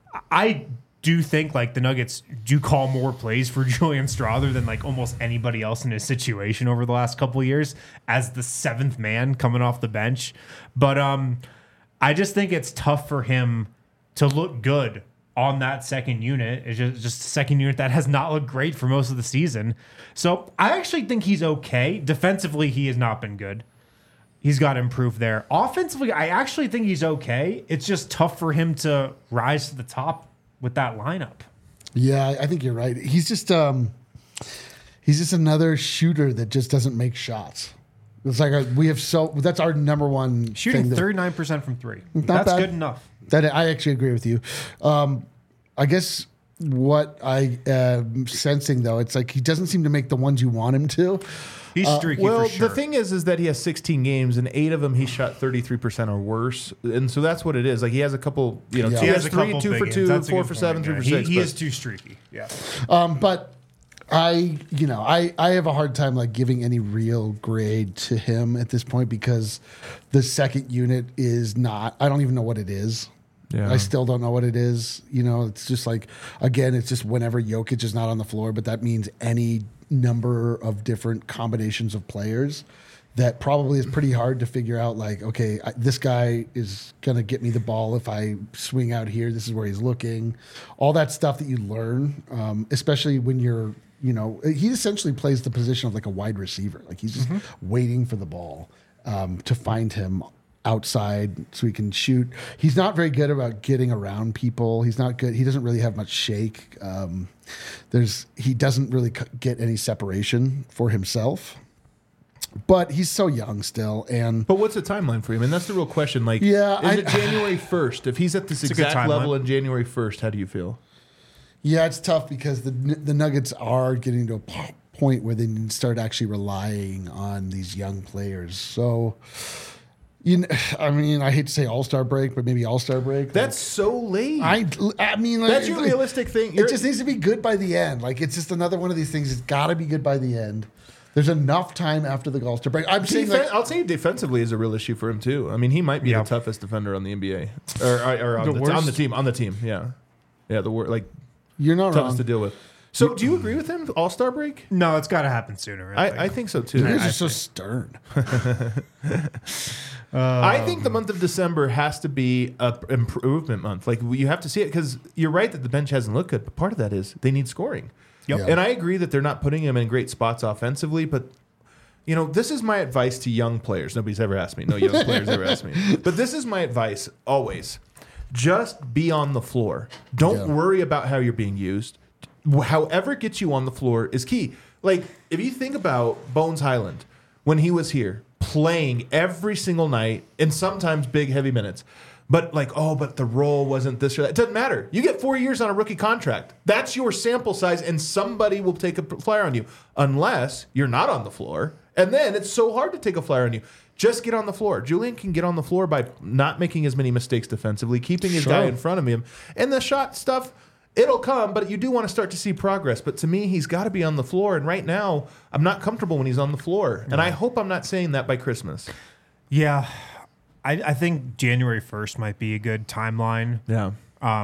I do think like the Nuggets do call more plays for Julian Strawther than like almost anybody else in his situation over the last couple of years as the seventh man coming off the bench. But um, I just think it's tough for him to look good on that second unit. It's just, just a second unit that has not looked great for most of the season. So I actually think he's okay. Defensively, he has not been good. He's got to improve there. Offensively, I actually think he's okay. It's just tough for him to rise to the top with that lineup. Yeah, I think you're right. He's just um, he's just another shooter that just doesn't make shots. It's like our, we have so that's our number one Shooting thing that- thirty-nine percent from three. That's bad. good enough. That I actually agree with you. Um, I guess what I am sensing though, it's like he doesn't seem to make the ones you want him to. He's streaky Well, for sure. the thing is, is that he has sixteen games, and eight of them he shot thirty-three percent or worse, and so that's what it is. Like he has a couple, you know, Yeah. he, He has, a three, couple two big for games. two, That's a four good for point, seven, three yeah. for He- six. He but- is too streaky. Yeah. Um, but I, you know, I, I have a hard time like giving any real grade to him at this point because the second unit is not, I don't even know what it is. Yeah. I still don't know what it is. You know, it's just like, again, it's just whenever Jokic is not on the floor, but that means any number of different combinations of players that probably is pretty hard to figure out. Like, okay, I, this guy is going to get me the ball if I swing out here. This is where he's looking. All that stuff that you learn, um, especially when you're, you know, he essentially plays the position of like a wide receiver. Like he's just waiting for the ball um, to find him outside so he can shoot. He's not very good about getting around people. He's not good. He doesn't really have much shake. Um, there's he doesn't really c- get any separation for himself. But he's so young still, and But what's the timeline for him? And that's the real question. Like, Yeah, is I- it January first? If he's at this It's a good exact timeline. level in January first, how do you feel? yeah, it's tough because the the Nuggets are getting to a p- point where they need to start actually relying on these young players. So, you know, I mean, I hate to say All Star break, but maybe All Star break. That's so late. I, I mean, like, That's your it- realistic thing. It You're- just needs to be good by the end. Like it's just another one of these things. It's got to be good by the end. There's enough time after the All Star break. I'm saying, Defen- like, I'll say defensively is a real issue for him too. I mean, he might be Yeah. the toughest defender on the N B A, or, or, or on, The the, on the worst? team. On the team, yeah, yeah. The wor- like you're not toughest wrong. to deal with. So, do you agree with him? All Star break? No, it's got to happen sooner. I, think. I, I think so too. You guys I, are so stern. I think the month of December has to be a p- improvement month. Like you have to see it because you're right that the bench hasn't looked good, but part of that is they need scoring. Yep. Yeah. And I agree that they're not putting him in great spots offensively, but you know, this is my advice to young players. Nobody's ever asked me. No young players ever asked me. But this is my advice always. Just be on the floor. Don't Yeah. worry about how you're being used. However gets you on the floor is key. Like, if you think about Bones Highland, when he was here, playing every single night and sometimes big, heavy minutes. But like, oh, but the role wasn't this or that. It doesn't matter. You get four years on a rookie contract. That's your sample size, and somebody will take a flyer on you unless you're not on the floor. And then it's so hard to take a flyer on you. Just get on the floor. Julian can get on the floor by not making as many mistakes defensively, keeping his Sure. guy in front of him. And the shot stuff, it'll come, but you do want to start to see progress. But to me, he's got to be on the floor. And right now, I'm not comfortable when he's on the floor. And I hope I'm not saying that by Christmas. Yeah, I, I think January first might be a good timeline. Yeah.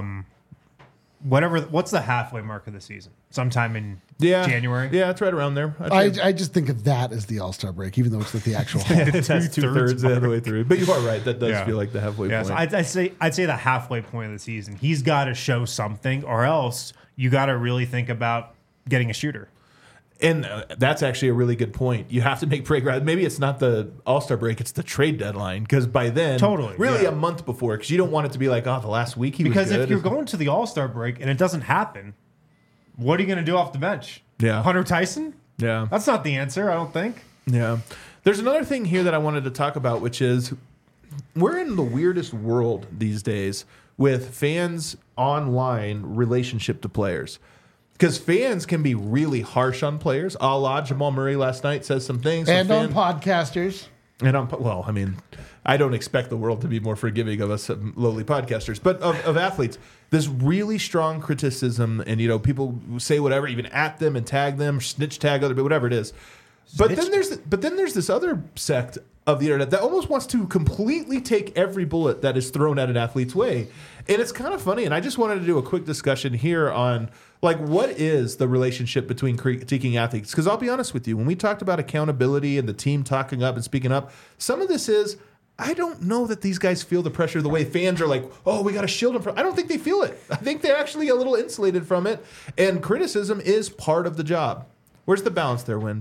Whatever. What's the halfway mark of the season? Sometime in Yeah. January. Yeah, it's right around there. I'd I, say I just think of that as the All Star break, even though it's not the actual. that's two thirds of the way through. But you are right. That does Yeah. feel like the halfway Yeah, point. so I'd, I'd say I'd say the halfway point of the season. He's got to show something, or else you got to really think about getting a shooter. And uh, that's actually a really good point. You have to make progress. Maybe it's not the All-Star break, it's the trade deadline. Because by then, Totally, really yeah. a month before, because you don't want it to be like, oh, the last week he Because was good. if you're going to the All Star break and it doesn't happen, what are you going to do off the bench? Yeah. Hunter Tyson? Yeah. That's not the answer, I don't think. Yeah. There's another thing here that I wanted to talk about, which is we're in the weirdest world these days with fans' online relationship to players. Because fans can be really harsh on players. A la Jamal Murray last night says some things. and some on fan- podcasters. And on, well, I mean, I don't expect the world to be more forgiving of us um, lowly podcasters, but of, of athletes. This really strong criticism, and you know, people say whatever, even at them and tag them, snitch tag other, but whatever it is. But then there's but then there's this other sect of the internet that almost wants to completely take every bullet that is thrown at an athlete's way, and it's kind of funny. And I just wanted to do a quick discussion here on like what is the relationship between critiquing athletes? Because I'll be honest with you, when we talked about accountability and the team talking up and speaking up, some of this is. I don't know that these guys feel the pressure the way fans are like, oh, we got to shield them from. I don't think they feel it. I think they're actually a little insulated from it. And criticism is part of the job. Where's the balance there, Wind?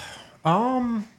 Um,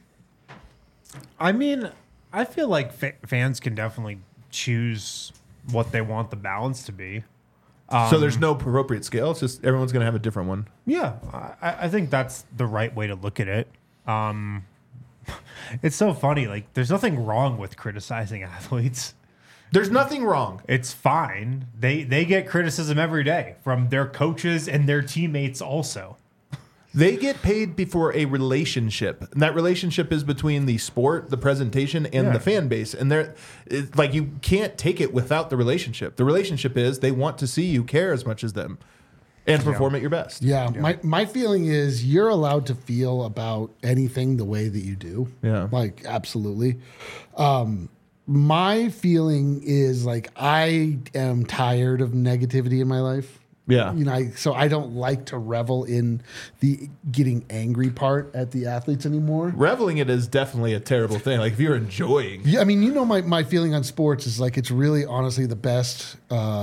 I mean, I feel like fa- fans can definitely choose what they want the balance to be. so there's no appropriate scale. It's just everyone's going to have a different one. Yeah, I, I think that's the right way to look at it. Um, it's so funny. Like, there's nothing wrong with criticizing athletes. There's nothing wrong. It's fine. They they get criticism every day from their coaches and their teammates also. They get paid before a relationship, and that relationship is between the sport, the presentation, and Yeah. the fan base. And they're it's like you can't take it without the relationship. The relationship is they want to see you care as much as them, and perform at your best. Yeah, my my feeling is you're allowed to feel about anything the way that you do. Yeah. like absolutely. Um, my feeling is like I am tired of negativity in my life. Yeah. You know, I, so I don't like to revel in the getting angry part at the athletes anymore. Reveling it is definitely a terrible thing. Like if you're enjoying, Yeah, I mean, you know, my, my feeling on sports is like it's really honestly the best uh,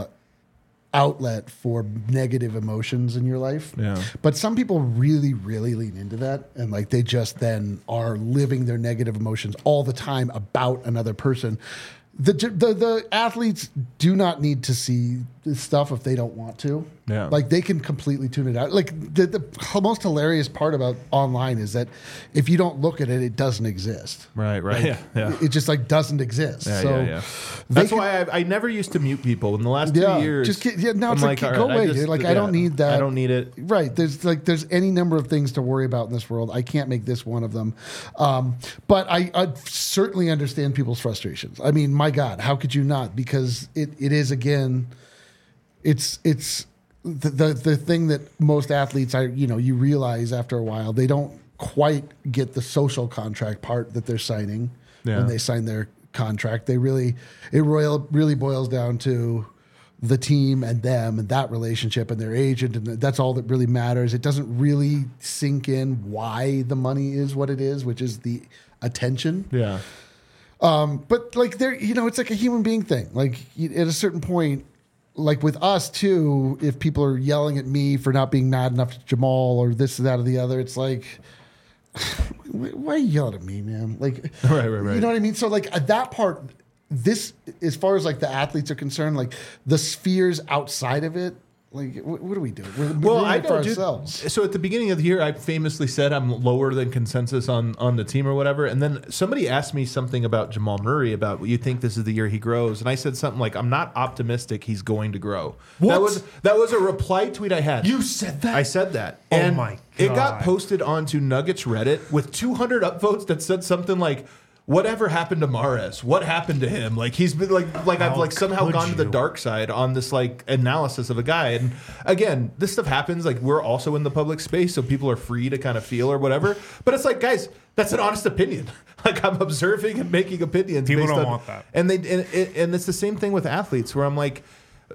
outlet for negative emotions in your life. Yeah. But some people really, really lean into that. And like they just then are living their negative emotions all the time about another person. The, the the athletes do not need to see this stuff if they don't want to. Yeah. Like they can completely tune it out. Like the, the most hilarious part about online is that if you don't look at it, it doesn't exist. right, right, yeah, yeah. It just like doesn't exist. Yeah, so yeah, yeah. they That's can- why I, I never used to mute people in the last Yeah, two years. just get- yeah, now I'm it's like, all go right, I away, just- dude. Like, I yeah, don't need that. I don't need it. Right. There's like there's any number of things to worry about in this world. I can't make this one of them. Um, but I, I certainly understand people's frustrations. I mean, my God, how could you not? Because it, it is again, it's it's the, the the thing that most athletes I you know you realize after a while they don't quite get the social contract part that they're signing Yeah. when they sign their contract. They really it royal really boils down to the team and them and that relationship and their agent, and that's all that really matters. It doesn't really sink in why the money is what it is, which is the attention. Yeah. Um, but like there, you know, it's like a human being thing. Like you- at a certain point, like with us too, if people are yelling at me for not being mad enough to Jamal or this, that, or the other, it's like, why are you yelling at me, man? Like, Right, right, right. You know what I mean? So like at that part, this, as far as like the athletes are concerned, like the spheres outside of it, like what, what do we do? We're Well, ruining I it for don't do. ourselves. So at the beginning of the year, I famously said I'm lower than consensus on on the team or whatever. And then somebody asked me something about Jamal Murray, about you think this is the year he grows, and I said something like, "I'm not optimistic he's going to grow." What? That was that was a reply tweet I had. You said that? I said that. Oh and my It got God. posted onto Nuggets Reddit with two hundred upvotes that said something like, "Whatever happened to Mahrez? What happened to him? Like he's been like like I've How like somehow could gone to the you? dark side on this like analysis of a guy." And again, this stuff happens. Like we're also in the public space, so people are free to kind of feel or whatever. But it's like, guys, that's an honest opinion. Like I'm observing and making opinions. People based don't on- want that. And they and, and it's the same thing with athletes, where I'm like,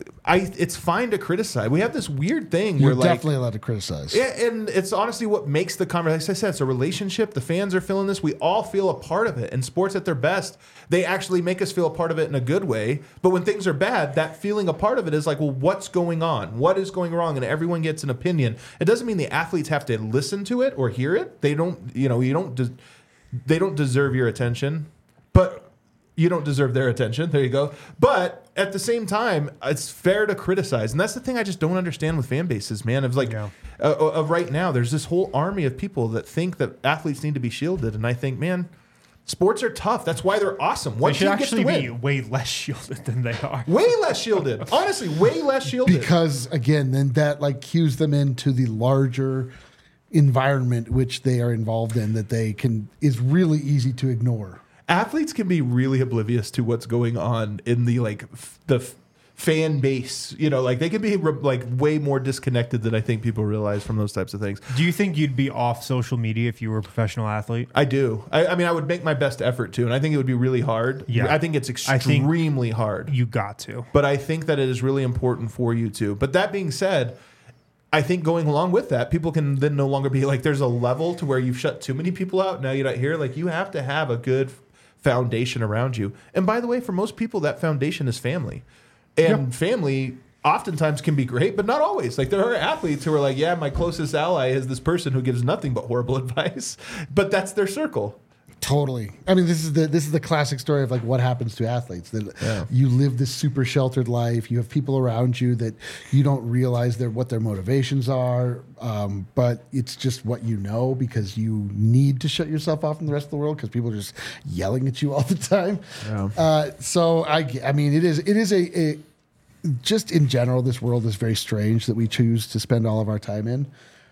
I it's fine to criticize. We have this weird thing You're where like. definitely allowed to criticize. Yeah, and it's honestly what makes the conversation. Like I said, it's a relationship. The fans are feeling this. We all feel a part of it. And sports at their best, they actually make us feel a part of it in a good way. But when things are bad, that feeling a part of it is like, well, what's going on? What is going wrong? And everyone gets an opinion. It doesn't mean the athletes have to listen to it or hear it. They don't, you know, you don't, de- they don't deserve your attention. But you don't deserve their attention. There you go. But at the same time, it's fair to criticize, and that's the thing I just don't understand with fan bases, man. Of like, Yeah. uh, of right now, there's this whole army of people that think that athletes need to be shielded, and I think, man, sports are tough. That's why they're awesome. One They should team gets to actually win. be way less shielded than they are. Way less shielded. Honestly, way less shielded. Because again, then that like cues them into the larger environment which they are involved in that they can is really easy to ignore. Athletes can be really oblivious to what's going on in the like f- the f- fan base. You know, like they can be re- like way more disconnected than I think people realize from those types of things. Do you think you'd be off social media if you were a professional athlete? I do. I, I mean, I would make my best effort to, and I think it would be really hard. Yeah. I think it's I think- extremely hard. You got to. But I think that it is really important for you to. But that being said, I think going along with that, people can then no longer be like, there's a level to where you've shut too many people out. Now you're not here. Like you have to have a good foundation around you. And by the way, for most people, that foundation is family. And family oftentimes can be great, but not always. Like there are athletes who are like, yeah, my closest ally is this person who gives nothing but horrible advice, but that's their circle. Totally. I mean, this is the this is the classic story of like what happens to athletes. That Yeah. you live this super sheltered life. You have people around you that you don't realize their what their motivations are, um, but it's just what you know because you need to shut yourself off from the rest of the world because people are just yelling at you all the time. Yeah. Uh, so I, g- I mean, it is it is a, a just in general, this world is very strange that we choose to spend all of our time in.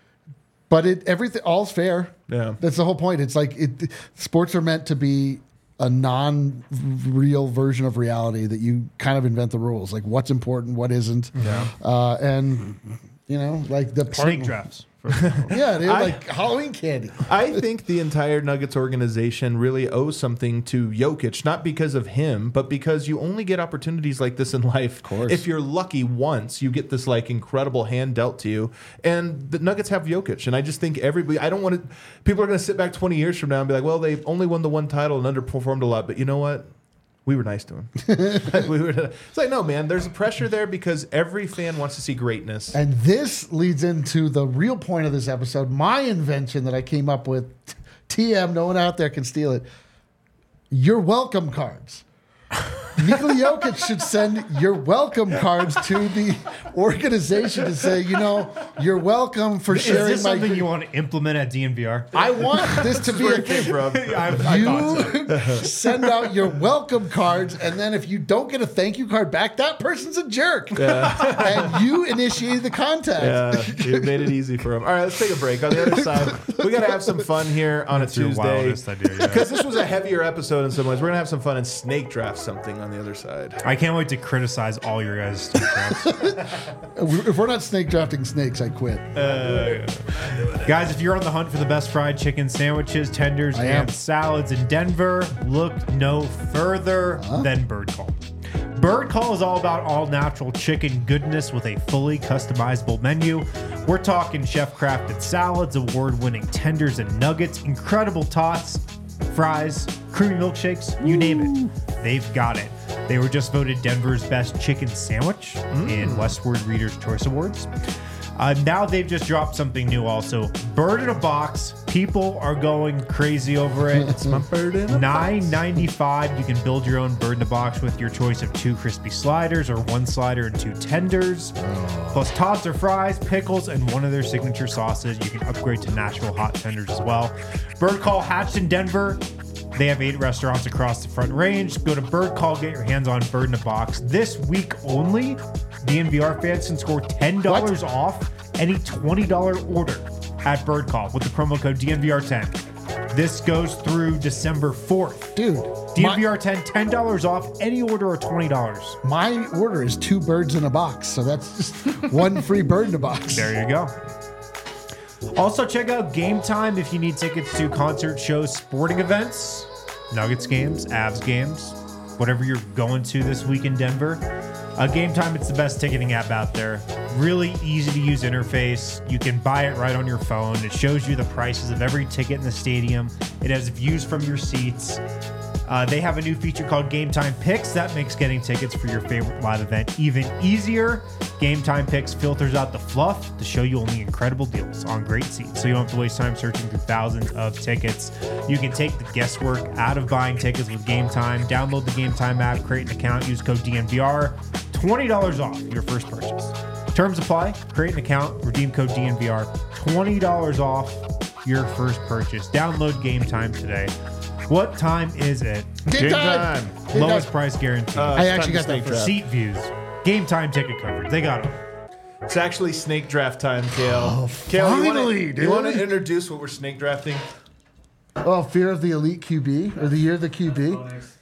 But it everything all's fair. Yeah. That's the whole point. It's like it sports are meant to be a non-real version of reality that you kind of invent the rules, like what's important, what isn't. Yeah. Uh, and you know, like the part, Snake drafts. For example. Yeah, they're I- like Halloween candy. I think the entire Nuggets organization really owes something to Jokic, not because of him, but because you only get opportunities like this in life. Of course. If you're lucky once, you get this like incredible hand dealt to you. And the Nuggets have Jokic. And I just think everybody, I don't want to, people are going to sit back twenty years from now and be like, well, they've only won the one title and underperformed a lot. But you know what? We were nice to him. we were, it's like, no, man, there's a pressure there because every fan wants to see greatness. And this leads into the real point of this episode, my invention that I came up with. T M, no one out there can steal it. Your welcome cards. Nikola Jokic should send your welcome cards to the organization to say, you know, you're welcome for Is sharing this my. something you want to implement at D N V R? I want this to be Where a it came thing. from. I, I thought so. You send out your welcome cards, and then if you don't get a thank you card back, that person's a jerk. And you initiated the contact. Yeah, you made it easy for him. All right, let's take a break. On the other side, we got to have some fun here on That's a your Tuesday. wildest idea, yeah. Because this was a heavier episode in some ways. We're going to have some fun and snake draft something on the other side. I can't wait to criticize all your guys' snake drafts. If we're not snake drafting snakes, I quit. Guys, if you're on the hunt for the best fried chicken sandwiches, tenders, I am. and salads in Denver, look no further than Bird Call. Bird Call is all about all natural chicken goodness with a fully customizable menu. We're talking chef-crafted salads, award-winning tenders and nuggets, incredible tots, fries, creamy milkshakes, you name it. They've got it. They were just voted Denver's best chicken sandwich mm. in Westward Reader's Choice Awards. Uh, now they've just dropped something new also. Bird in a box. People are going crazy over it. It's my bird in a nine ninety-five. You can build your own bird in a box with your choice of two crispy sliders or one slider and two tenders. Oh. Plus tots or fries, pickles, and one of their signature sauces. You can upgrade to Nashville hot tenders as well. Bird Call hatched in Denver. They have eight restaurants across the Front Range. Go to Bird Call, get your hands on Bird in a Box. This week only, D N V R fans can score ten dollars what? off any twenty dollars order at Bird Call with the promo code D N V R ten. This goes through December fourth. Dude. D N V R ten, ten dollars off any order of twenty dollars. My order is two birds in a box, so that's just one free bird in a box. There you go. Also, check out Game Time if you need tickets to concert shows, sporting events, Nuggets games, Avs games, whatever you're going to this week in Denver. Uh, Game Time, it's the best ticketing app out there. Really easy to use interface. You can buy it right on your phone. It shows you the prices of every ticket in the stadium. It has views from your seats. Uh, they have a new feature called Game Time Picks. That makes getting tickets for your favorite live event even easier. Game Time Picks filters out the fluff to show you only incredible deals on great seats, so you don't have to waste time searching through thousands of tickets. You can take the guesswork out of buying tickets with Game Time. Download the Game Time app, create an account, use code D N V R. twenty dollars off your first purchase. Terms apply. Create an account, redeem code D N V R. twenty dollars off your first purchase. Download Game Time today. What time is it? Game, Game time. time. Game Lowest time. Price guarantee. Uh, I actually got that. Seat views. Game Time ticket coverage. They got it. It's actually snake draft time, Kale. Oh, Kale, finally, you want to introduce what we're snake drafting? Oh, Fear of the Elite Q B or the Year of the Q B. Oh, nice.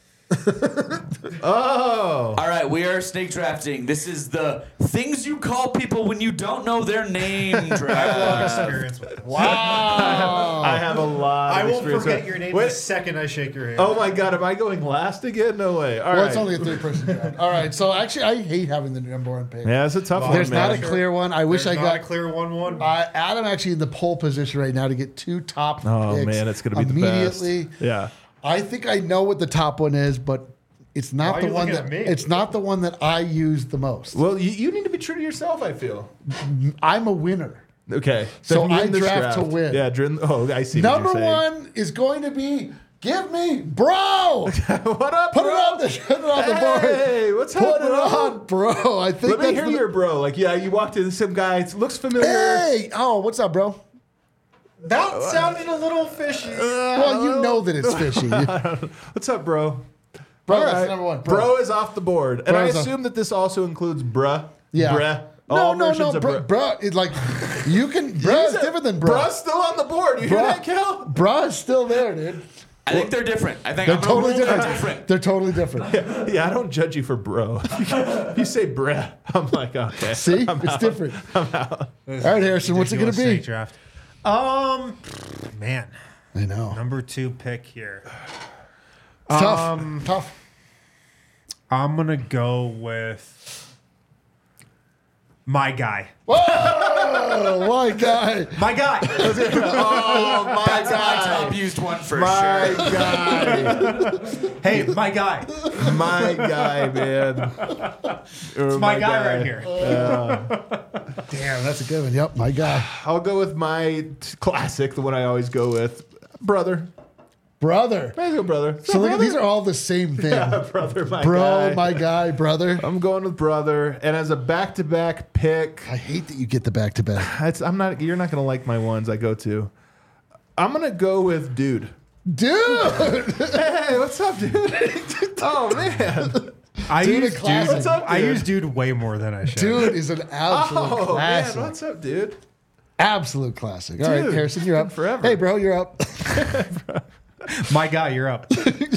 Oh. All right, we are snake drafting. This is the things you call people when you don't know their name draft. Experience with it. Wow. I, have, I have a lot I of won't experience forget with your name Wait. the second I shake your hand. Oh my God, am I going last again? No way. All well, right. it's only a three-person draft. All right, so actually, I hate having the number one pick. Yeah, it's a tough Well, one, There's man. not a clear one. I wish There's I not got a clear one one. Uh, Adam actually in the pole position right now to get two top Oh picks man, it's going to be the best. immediately. Yeah. I think I know what the top one is, but it's not Why are the you one looking that at me? it's not the one that I use the most. Well, you, you need to be true to yourself, I feel. I'm a winner. Okay. So Then I win this draft to win. Yeah, drin- oh, I see. Number what you're saying. one is going to be give me bro. What up, Put bro? it on the put it on the board. Hey, what's Put up, it bro? on, bro. I think Let me that's hear the- your bro. Like, yeah, you walked in, some guy, it looks familiar. Hey, oh, what's up, bro? That sounded a little fishy. Well, you know that it's fishy. What's up, bro? Bro, All that's right. number one. Bro. Bro. is off the board. And Bro I is off- assume that this also includes bruh. Yeah. Bruh. No, All no, versions no, of bro, bruh. bro. It's like you can. Bro is Use it. different than bro. Bruh's still on the board. You hear that, Kel? Bro is still there, dude. I think they're different. I think They're I'm totally gonna rule different. they're different. They're totally different. Yeah, I don't judge you for bro. If you say bruh, I'm like, okay. See, I'm it's out. different. I'm out. All right, Harrison, what's it gonna Ridiculous snake be? draft. Um, man, I know. number two pick here. It's tough. Um, tough. I'm gonna go with my guy. Oh, my guy. My guy. Oh, my That's my guy. top used one for My sure. guy. Hey, my guy. My guy, man. It's my, guy, right here. Damn, that's a good one. Yep, my guy. I'll go with my t- classic, the one I always go with. Brother. Brother. Let's go, brother. So look, these are all the same thing. Yeah, brother, my Bro, guy. my guy, brother. I'm going with brother, and as a back-to-back pick, I hate that you get the back to back. it's, I'm not. You're not gonna like my ones I go to. I'm gonna go with dude. Dude! Hey, what's up, dude? Oh man, I Dude, use a dude. classic. What's up, I dude? use dude way more than I should. Dude is an absolute oh classic. man, what's up, dude? Absolute classic. All right, Dude, Harrison, you're up. forever. Hey, bro, you're up. My guy, you're up.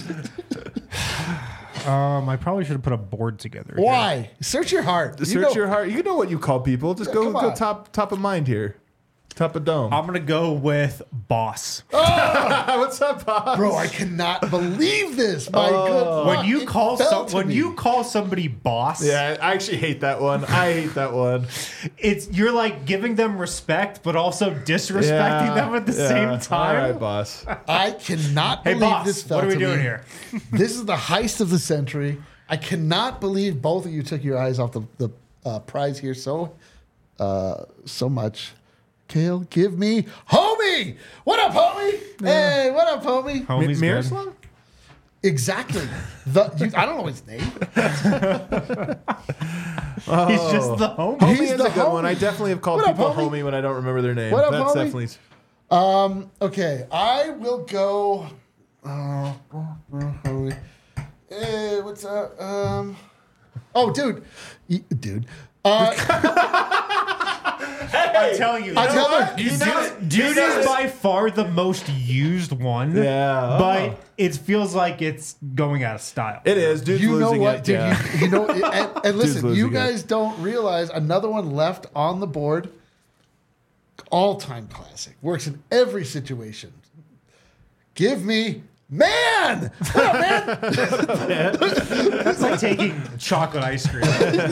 um, I probably should have put a board together. here. Why? Search your heart. You Search know- your heart. You know what you call people. Just Yeah, go come go on. top top of mind here. Top of dome. I'm gonna go with Boss. What's up, boss? Bro, I cannot believe this. My Oh. good. When you It call fell some, to when me. you call somebody boss, Yeah, I actually hate that one. I hate that one. it's you're like giving them respect, but also disrespecting Yeah, them at the yeah. same time. All right, boss. I cannot Hey believe boss, this fell what are we to doing me. here? This is the heist of the century. I cannot believe both of you took your eyes off the, the uh, prize here so uh, so much. Kale, give me homie. What up, homie? Hey, what up, homie? Homie's good. Miroslav? Exactly. The, you, I don't know his name. He's just the homie. Homie He's is the a good one. homie. I definitely have called What up, people homie? homie? when I don't remember their name. What up, That's homie? definitely. Um. Okay, I will go. Uh, homie. Hey, what's up? Um. Oh, dude, Y- dude. Uh, I'm telling you, I tell her. You know, dude is by far the most used one. Yeah. but Oh. it feels like it's going out of style. It is. Dude's You know losing what, it. dude? Yeah. You, you know, and, and listen, losing you it. guys don't realize another one left on the board. All-time classic. Works in every situation. Give me man. What up, man? That's like taking chocolate ice cream.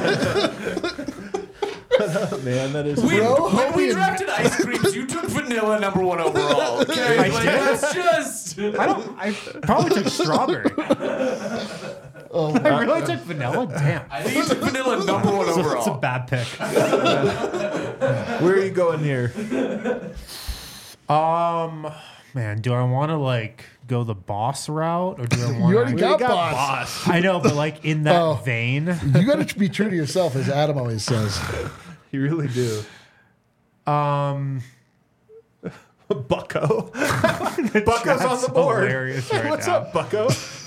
Man, that is. we, Bro, when we homie, drafted ice creams, you took vanilla number one overall. Okay, I like, did? that's just. I don't. I probably took strawberry. I really took vanilla. Damn, I think you took vanilla number one it's a overall. bad pick. Where are you going here? Um, man, do I want to like go the boss route or do I want? You already to... got, got boss. I know, but like in that Oh. vein. You got to be true to yourself, as Adam always says. You really do. Um, Bucko. Bucko's on the board. hilarious right What's now. up, Bucko?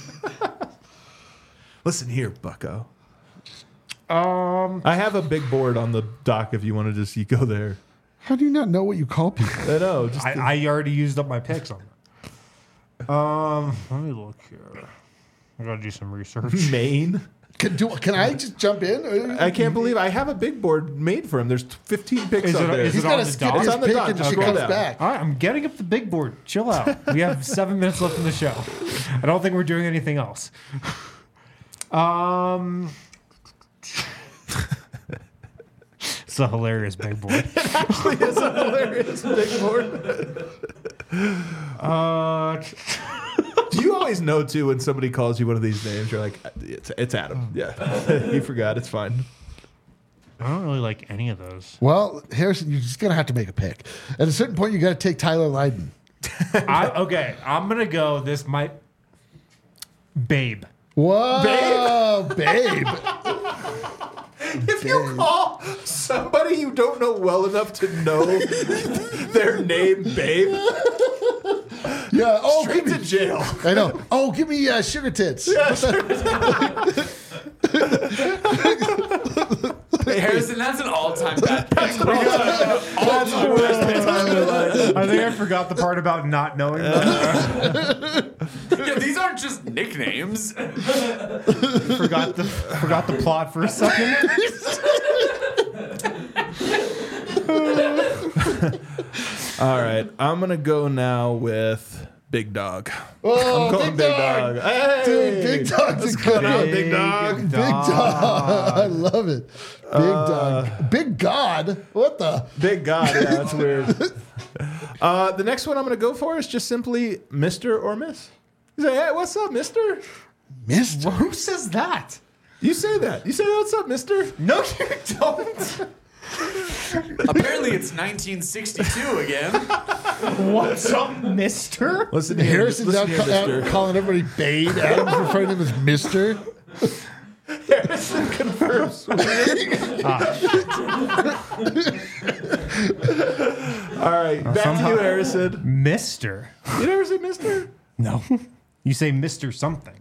Listen here, Bucko. Um, I have a big board on the dock if you want to just you go there. How do you not know what you call people? I know. Just I, I already used up my picks on that. Um, let me look here. I gotta do some research. Maine. Can, do, can I just jump in? I can't believe I have a big board made for him. There's fifteen picks Is up it- there. is He's it got on to the skip dock? his It's on the pick dock. until she Scroll comes down. back. All right, I'm getting up the big board. Chill out. We have seven minutes left in the show. I don't think we're doing anything else. Um, it's a hilarious big board. It's a hilarious big board. Uh, Do you always know too when somebody calls you one of these names? You're like, it's, it's Adam. Yeah, he forgot. It's fine. I don't really like any of those. Well, Harrison, you're just going to have to make a pick. At a certain point, you got to take Tyler Lydon. I, okay, I'm gonna go. This might, Babe. Whoa, babe. If you call somebody you don't know well enough to know their name, babe, Yeah. Oh, straight give to me, jail. I know. Oh, give me uh, sugar tits. Hey, Harrison, that's an all-time bad pick. All-time worst pick. I think I forgot the part about not knowing that. Yeah, these aren't just nicknames. forgot the forgot the plot for a second. All right, I'm gonna go now with Big Dog. Oh, I'm going big, dog. Hey! Dude, big dog's a good on, one. Big Dog. Big dog. I love it. Big dog. Big God. What the? Big God, yeah, that's weird. Uh, the next one I'm gonna go for is just simply Mister or Miss. You say, hey, what's up, Mister? Mister. Who says that? You say that. You say, what's up, Mister? No, you don't. Apparently, it's nineteen sixty-two again. What's up, Mister? Listen here, Harrison's listen out, here, ca- out Mister. calling everybody Babe. Adam's referring to him as Mister. Harrison confirms. All right, back to somehow- you, Harrison. Mister. You never say Mister? No. You say Mister something.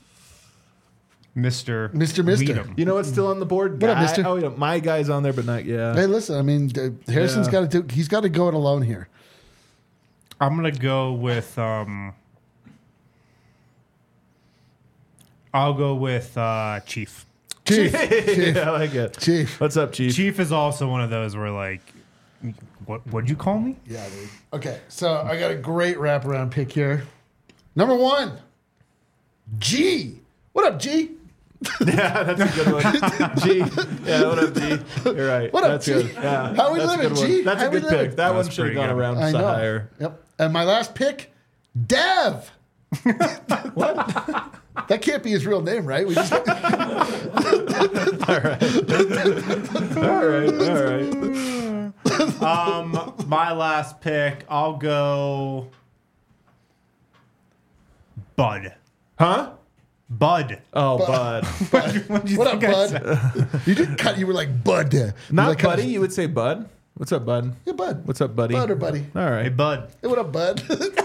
Mister Mister Mister. Weedham. You know what's still on the board? What up, Guy- Mister? Oh, yeah, my guy's on there, but not yeah. Hey, listen. I mean, uh, Harrison's Yeah. got to do. He's got to go it alone here. I'm gonna go with um. I'll go with uh, Chief. Chief. Chief. I like it. Chief. What's up, Chief? Chief is also one of those where like you can What would you call me? Yeah, dude. Okay, so I got a great wraparound pick here. Number one, G. What up, G? Yeah, that's a good one. G. Yeah, what up, G? You're right. What up, that's G? Good. Yeah, How we that's a living, good one. G? That's How a we good living? pick. That one That's should have pretty gone good. around I so know. higher. Yep. And my last pick, Dev. What? That can't be his real name, right? We just All right. All right. Um, my last pick, I'll go Bud. Huh? Bud. Oh, Bud. What'd you what up, think I bud? said? You didn't cut. You were like Bud. You Not like, Buddy. You would say Bud. What's up, Bud? Yeah, Bud. What's up, Buddy? Bud or Buddy? All Hey, right. Bud. Hey, what up, Bud?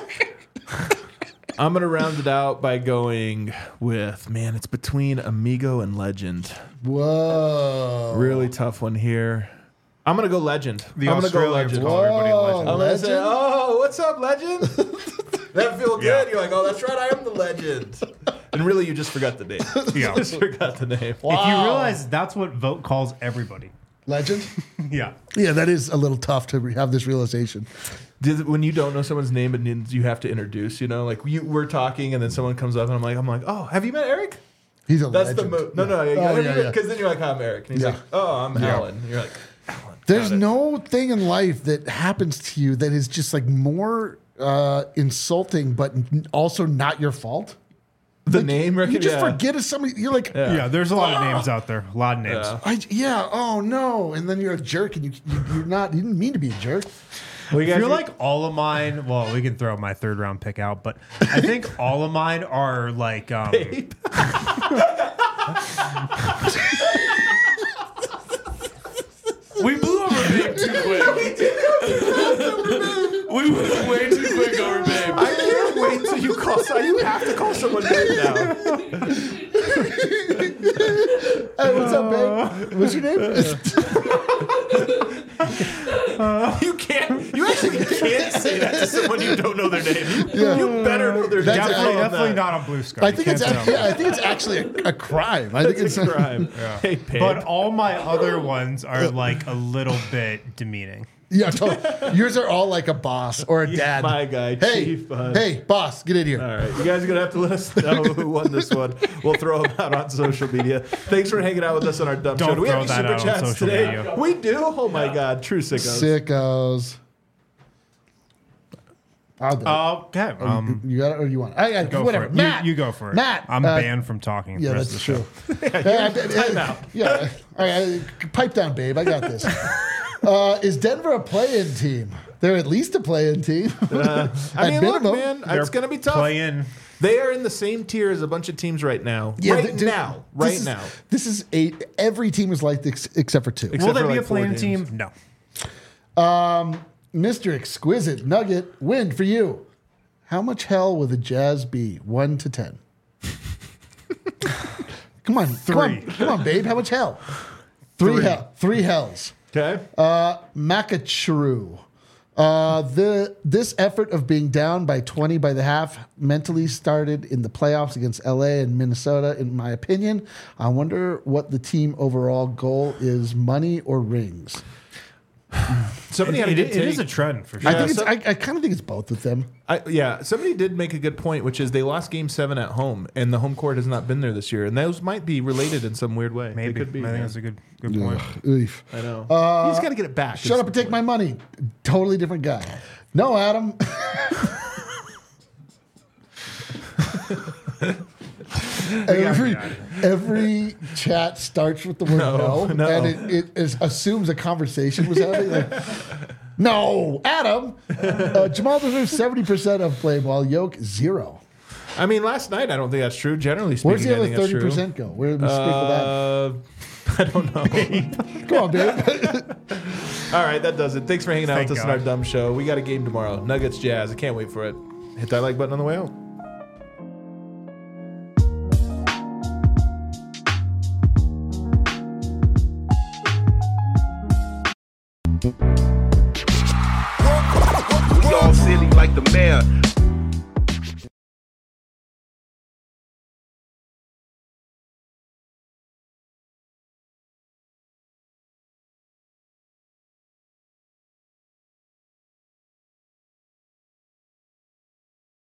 I'm gonna round it out by going with man. It's between Amigo and Legend. Whoa. Really tough one here. I'm gonna go Legend. The I'm gonna go Australians Legend. call everybody Whoa. legend. I'm gonna say, Legend? oh, what's up, Legend? That feel good. Yeah. You're like, oh, that's right. I am the Legend. And really, you just forgot the name. Yeah. just forgot the name. Wow. If you realize that's what Vote calls everybody. Legend? Yeah. Yeah, that is a little tough to re- have this realization. Did, when you don't know someone's name and you have to introduce, you know, like you, we're talking and then someone comes up and I'm like, I'm like, oh, have you met Eric? He's a That's legend. the move. No, no, Oh, yeah, yeah. because then you're like, I'm Eric, and he's Yeah. like, oh, I'm Yeah. Alan. And you're like, Alan. There's Got it. no thing in life that happens to you that is just like more uh, insulting, but n- also not your fault. the Like, name. Reckon, You just yeah. forget it's somebody. You're like, Yeah. Yeah, there's a lot of names out there. A lot of names. Yeah. I, yeah, oh no, and then you're a jerk, and you, you you're not. You didn't mean to be a jerk. Well, you I guys feel are- like all of mine. Well, we can throw my third round pick out, but I think all of mine are like. Um, We blew over Babe too quick. We went way too quick over Babe. I can't wait till you call. So you have to call someone babe now. Hey, what's up, babe? What's your name? You can't. You actually can't say that to someone you don't know their name. You, Yeah. you better know their name. That's Definitely, I- definitely not on Blue Sky. I You think can't it's say actually, that. I think it's actually a, a crime. I think It's it's a crime. Hey, babe. But all my other ones are like a little bit demeaning. Yeah, totally. Yours are all like a boss or a dad. my guy, Hey, Chief, uh, hey, boss, get in here. All right, you guys are gonna have to let us know who won this one. We'll throw them out on social media. Thanks for hanging out with us on our dumb Don't show. Do we throw have that any super out on chats social today? media. We do. Oh my God, true sickos. Sickos. I'll do it. Okay. Um, you got it, or you want? It? I, I, go whatever. for it. Matt, you, you go for it. Matt, I'm uh, banned from talking. Yeah, the rest that's of the true. show. Hey, I- I- Time out. Yeah. All right, pipe down, babe. I got this. Uh, is Denver a play-in team? They're at least a play-in team. Uh, I At mean, minimum, look, man, They're it's gonna be tough. Playing. They are in the same tier as a bunch of teams right now. Yeah, right th- dude, now. this Right is- now. This is eight. Every team is like this except for two. Except Will they for be like a four playing games. team? No. Um, Mister Exquisite Nugget, win for you. How much hell will the Jazz be? One to ten. Come on, come on, Three. come on, babe. How much hell? Three, Three. hell. Three hells. Okay. Uh, Makacheru. Uh, the this effort of being down by twenty by the half mentally started in the playoffs against L A and Minnesota. In my opinion, I wonder what the team overall goal is: money or rings. Somebody had a It- good it- it is take. a trend for sure. I think so- it's. I, I kind of think it's both with them. I, yeah, somebody did make a good point, which is they lost Game Seven at home, and the home court has not been there this year, and those might be related in some weird way. Maybe. They could be. I think man. that's a good good point. Oof. I know. you just got to get it back. Shut up and take my money. Totally different guy. No, Adam. every, every chat starts with the word no, No, no. and it, it is, assumes a conversation was happening. Like, no, Adam. Uh, Jamal deserves seventy percent of play while Yoke zero. I mean, last night I don't think that's true. Generally speaking, Where's the I other think that's thirty true. percent go? Where do we speak of that? Uh, I don't know. Come on, babe. All right, that does it. Thanks for hanging out Thank with us God. on our dumb show. We got a game tomorrow. Nuggets Jazz. I can't wait for it. Hit that like button on the way out.